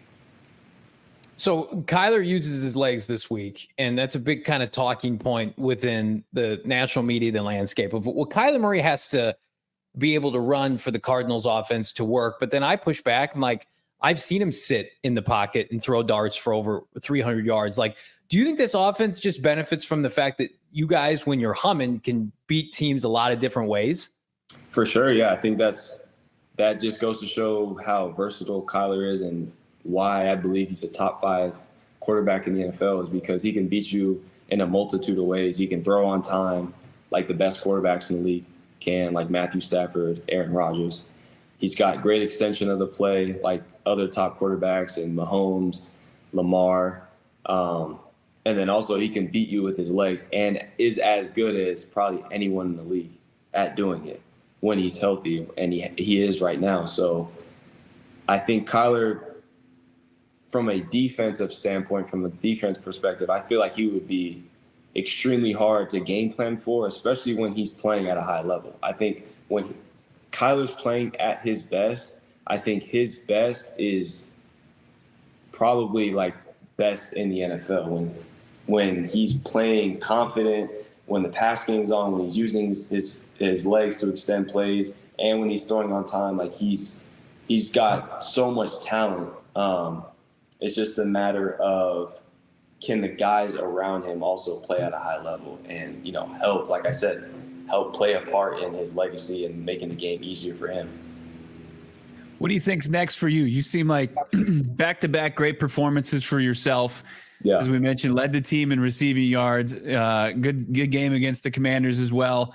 So Kyler uses his legs this week, and that's a big kind of talking point within the national media, the landscape of well, Kyler Murray has to be able to run for the Cardinals offense to work. But then I push back and like, I've seen him sit in the pocket and throw darts for over three hundred yards. Like, do you think this offense just benefits from the fact that you guys, when you're humming, can beat teams a lot of different ways? For sure, yeah. I think that's that just goes to show how versatile Kyler is and why I believe he's a top five quarterback in the N F L is because he can beat you in a multitude of ways. He can throw on time like the best quarterbacks in the league can, like Matthew Stafford, Aaron Rodgers. He's got great extension of the play like other top quarterbacks in Mahomes, Lamar. Um, and then also he can beat you with his legs and is as good as probably anyone in the league at doing it when he's healthy, and he he is right now. So I think Kyler, from a defensive standpoint, from a defense perspective, I feel like he would be extremely hard to game plan for, especially when he's playing at a high level. I think when he, Kyler's playing at his best, I think his best is probably like best in the N F L when when he's playing confident, when the pass game's on, when he's using his his legs to extend plays, and when he's throwing on time. Like he's he's got so much talent. Um, it's just a matter of, can the guys around him also play at a high level and, you know, help, like I said, help play a part in his legacy and making the game easier for him. What do you think's next for you? You seem like back-to-back great performances for yourself. Yeah. As we mentioned, led the team in receiving yards. Uh, good good game against the Commanders as well.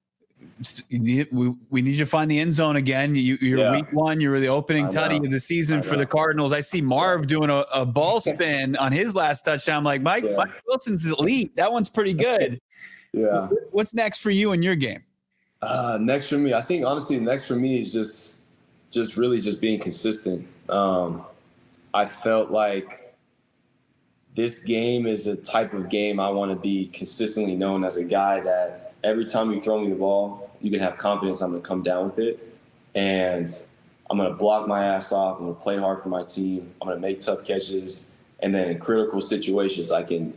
We, we need you to find the end zone again. You, you're yeah. week one. You were the opening tutty of the season for the Cardinals. I see Marv doing a, a ball spin on his last touchdown. I'm like, Mike, yeah. Mike Wilson's elite. That one's pretty good. Yeah. What's next for you in your game? Uh, next for me, I think honestly, next for me is just, just really just being consistent. Um, I felt like this game is the type of game I want to be consistently known as a guy that every time you throw me the ball, you can have confidence I'm going to come down with it. And I'm going to block my ass off. I'm going to play hard for my team. I'm going to make tough catches. And then in critical situations, I can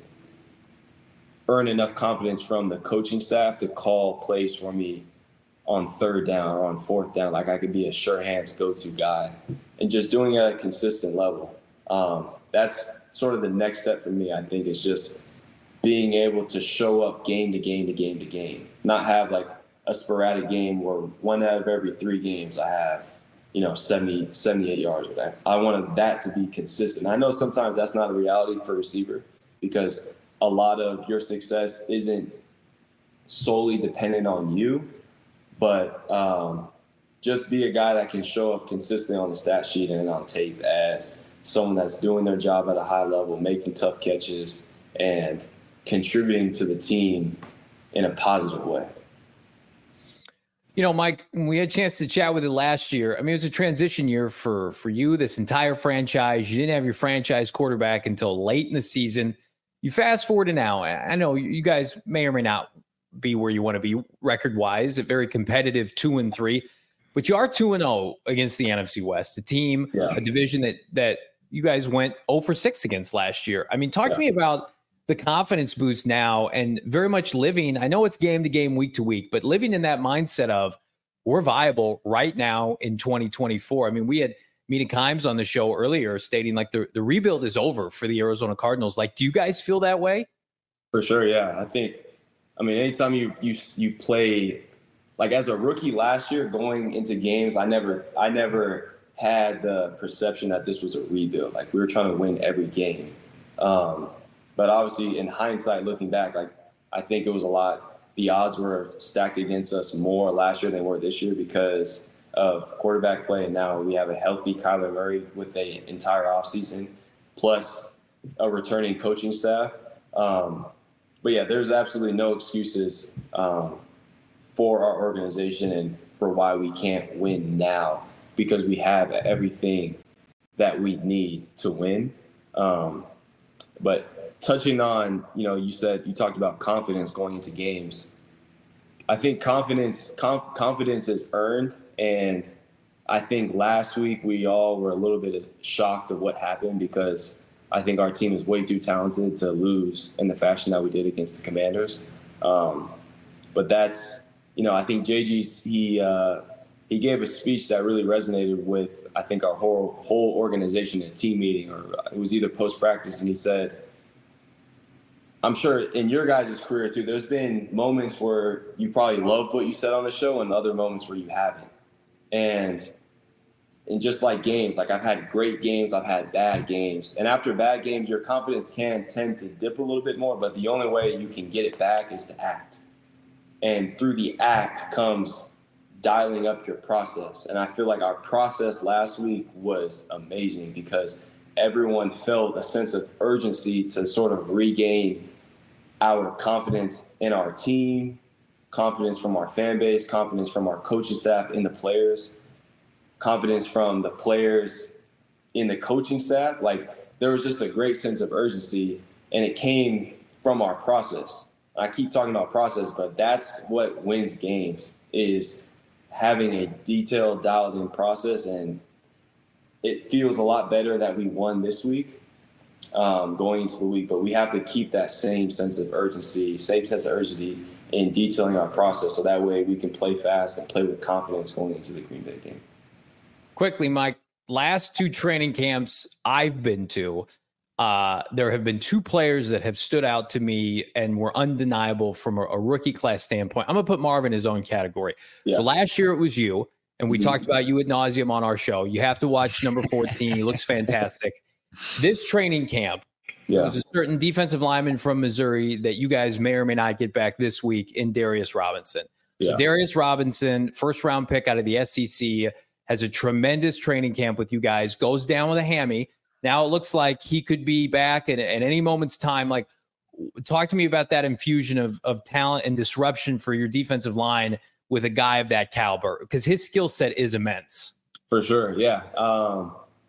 earn enough confidence from the coaching staff to call plays for me on third down or on fourth down. Like I could be a sure hands go-to guy and just doing it at a consistent level. Um, that's sort of the next step for me, I think, is just being able to show up game to game to game to game, not have like a sporadic game where one out of every three games I have, you know, seventy, seventy-eight yards or that. I wanted that to be consistent. I know sometimes that's not a reality for a receiver because a lot of your success isn't solely dependent on you, but um, just be a guy that can show up consistently on the stat sheet and on tape as someone that's doing their job at a high level, making tough catches, and contributing to the team in a positive way. You know, Mike, we had a chance to chat with you last year. I mean, it was a transition year for, for you, this entire franchise. You didn't have your franchise quarterback until late in the season. You fast forward to now. I know you guys may or may not be where you want to be record-wise, a very competitive two and three, but you are two and oh against the N F C West, a team, yeah. a division that that you guys went oh for six against last year. I mean, talk yeah. to me about the confidence boost now and very much living. I know it's game to game, week to week, but living in that mindset of we're viable right now in twenty twenty-four. I mean, we had Mina Kimes on the show earlier stating like the, the rebuild is over for the Arizona Cardinals. Like, do you guys feel that way? For sure. Yeah. I think, I mean, anytime you, you, you play like as a rookie last year going into games, I never, I never had the perception that this was a rebuild. Like we were trying to win every game. Um, But obviously, in hindsight, looking back, like I think it was a lot. The odds were stacked against us more last year than they were this year because of quarterback play. And now we have a healthy Kyler Murray with the entire offseason, plus a returning coaching staff. Um, but yeah, there's absolutely no excuses um, for our organization and for why we can't win now because we have everything that we need to win. Um, but touching on, you know, you said you talked about confidence going into games. I think confidence com- confidence is earned, and I think last week we all were a little bit shocked of what happened because I think our team is way too talented to lose in the fashion that we did against the Commanders. Um, but that's, you know, I think J G's he uh, he gave a speech that really resonated with, I think, our whole whole organization in a team meeting, or it was either post-practice, and he said, I'm sure in your guys' career too, there's been moments where you probably loved what you said on the show and other moments where you haven't. And and just like games, like I've had great games, I've had bad games. And after bad games, your confidence can tend to dip a little bit more, but the only way you can get it back is to act. And through the act comes dialing up your process. And I feel like our process last week was amazing because everyone felt a sense of urgency to sort of regain our confidence in our team, confidence from our fan base, confidence from our coaching staff in the players, confidence from the players in the coaching staff. Like, there was just a great sense of urgency, and it came from our process. I keep talking about process, but that's what wins games, is having a detailed, dialed-in process. And it feels a lot better that we won this week um, going into the week, but we have to keep that same sense of urgency, same sense of urgency in detailing our process, so that way we can play fast and play with confidence going into the Green Bay game. Quickly, Mike, last two training camps I've been to, uh, there have been two players that have stood out to me and were undeniable from a, a rookie class standpoint. I'm going to put Marvin in his own category. Yeah. So last year it was you, and we mm-hmm. talked about you ad nauseum on our show. You have to watch number fourteen. He looks fantastic. This training camp, yeah. there was a certain defensive lineman from Missouri that you guys may or may not get back this week in Darius Robinson. So yeah. Darius Robinson, first round pick out of the S E C, has a tremendous training camp with you guys, goes down with a hammy. Now it looks like he could be back at, at any moment's time. Like, talk to me about that infusion of, of talent and disruption for your defensive line with a guy of that caliber, because his skill set is immense. For sure, yeah. Um,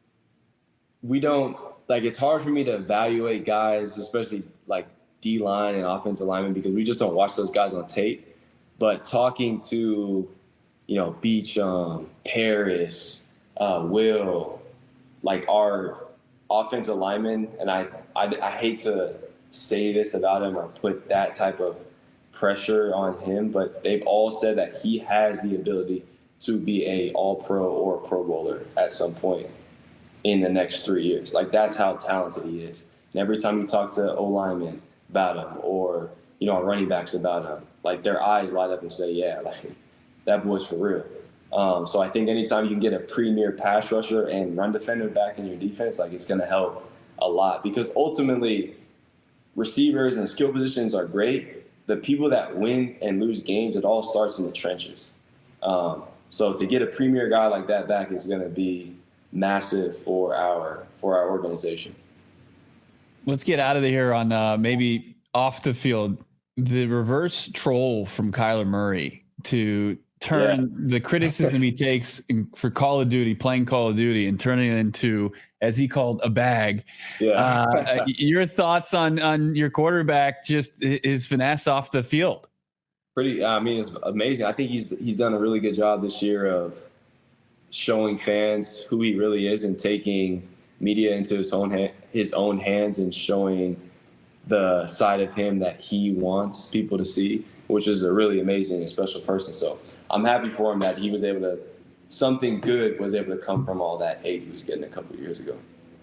we don't, like, it's hard for me to evaluate guys, especially like D-line and offensive linemen, because we just don't watch those guys on tape. But talking to, you know, Beachum, Paris, uh, Will, like our offensive linemen, and I, I, I hate to say this about him or put that type of pressure on him, but they've all said that he has the ability to be a all-pro or a Pro Bowler at some point in the next three years. Like, that's how talented he is. And every time you talk to O-linemen about him, or, you know, running backs about him, like, their eyes light up and say, yeah, like, that boy's for real. Um, so I think anytime you can get a premier pass rusher and run defender back in your defense, like, it's going to help a lot, because ultimately receivers and skill positions are great. The people that win and lose games, it all starts in the trenches. Um, so to get a premier guy like that back is going to be massive for our for our organization. Let's get out of here on uh, maybe off the field. The reverse troll from Kyler Murray to turn yeah. the criticism he takes in, for Call of Duty, playing Call of Duty, and turning it into, as he called, a bag. Yeah. uh, your thoughts on on your quarterback, just his finesse off the field? Pretty. I mean, it's amazing. I think he's he's done a really good job this year of showing fans who he really is and taking media into his own ha- his own hands and showing the side of him that he wants people to see, which is a really amazing and special person. So I'm happy for him that he was able to, something good was able to come from all that hate he was getting a couple of years ago.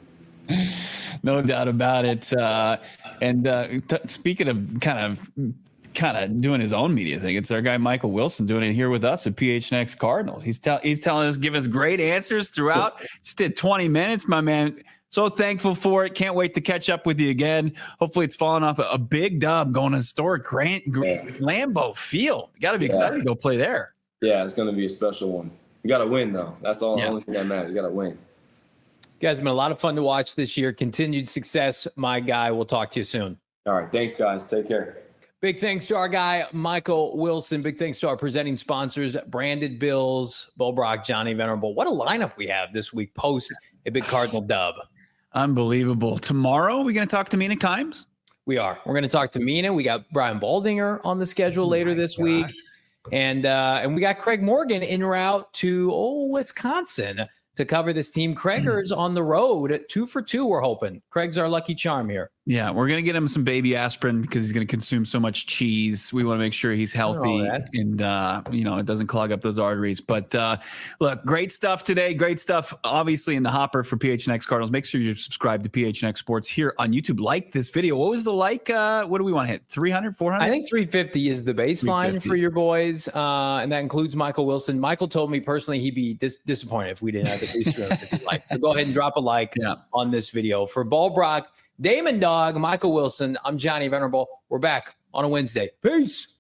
No doubt about it. Uh, and uh, t- speaking of kind of kind of doing his own media thing, it's our guy Michael Wilson doing it here with us at P H N X Cardinals. He's, tell- he's telling us, give us great answers throughout. Just did twenty minutes, my man. So thankful for it. Can't wait to catch up with you again. Hopefully it's falling off a, a big dub going to historic Grant, Grant, Lambeau Field. You got to be excited yeah. to go play there. Yeah, it's going to be a special one. You got to win, though. That's all. Yeah. The only thing that matters. You got to win. You guys have been a lot of fun to watch this year. Continued success, my guy. We'll talk to you soon. All right. Thanks, guys. Take care. Big thanks to our guy, Michael Wilson. Big thanks to our presenting sponsors, Branded Bills, Bo Brock, Johnny Venerable. What a lineup we have this week post a big Cardinal dub. Unbelievable. Tomorrow, we're going to talk to Mina Kimes. We are. We're going to talk to Mina. We got Brian Baldinger on the schedule later oh this gosh. week. And uh, and we got Craig Morgan en route to oh, Wisconsin to cover this team. Craigers on the road, two for two, we're hoping. Craig's our lucky charm here. Yeah, we're gonna get him some baby aspirin because he's gonna consume so much cheese. We want to make sure he's healthy and uh, you know, it doesn't clog up those arteries. But uh, look, great stuff today. Great stuff, obviously, in the hopper for P H N X Cardinals. Make sure you subscribe to P H N X Sports here on YouTube. Like this video. What was the like? Uh, what do we want to hit? three hundred, four hundred? I think three fifty is the baseline for your boys, uh, and that includes Michael Wilson. Michael told me personally he'd be dis- disappointed if we didn't have at least three hundred fifty likes. So go ahead and drop a like yeah. on this video for Ball Brock, Damon Dog, Michael Wilson. I'm Johnny Venerable. We're back on a Wednesday. Peace.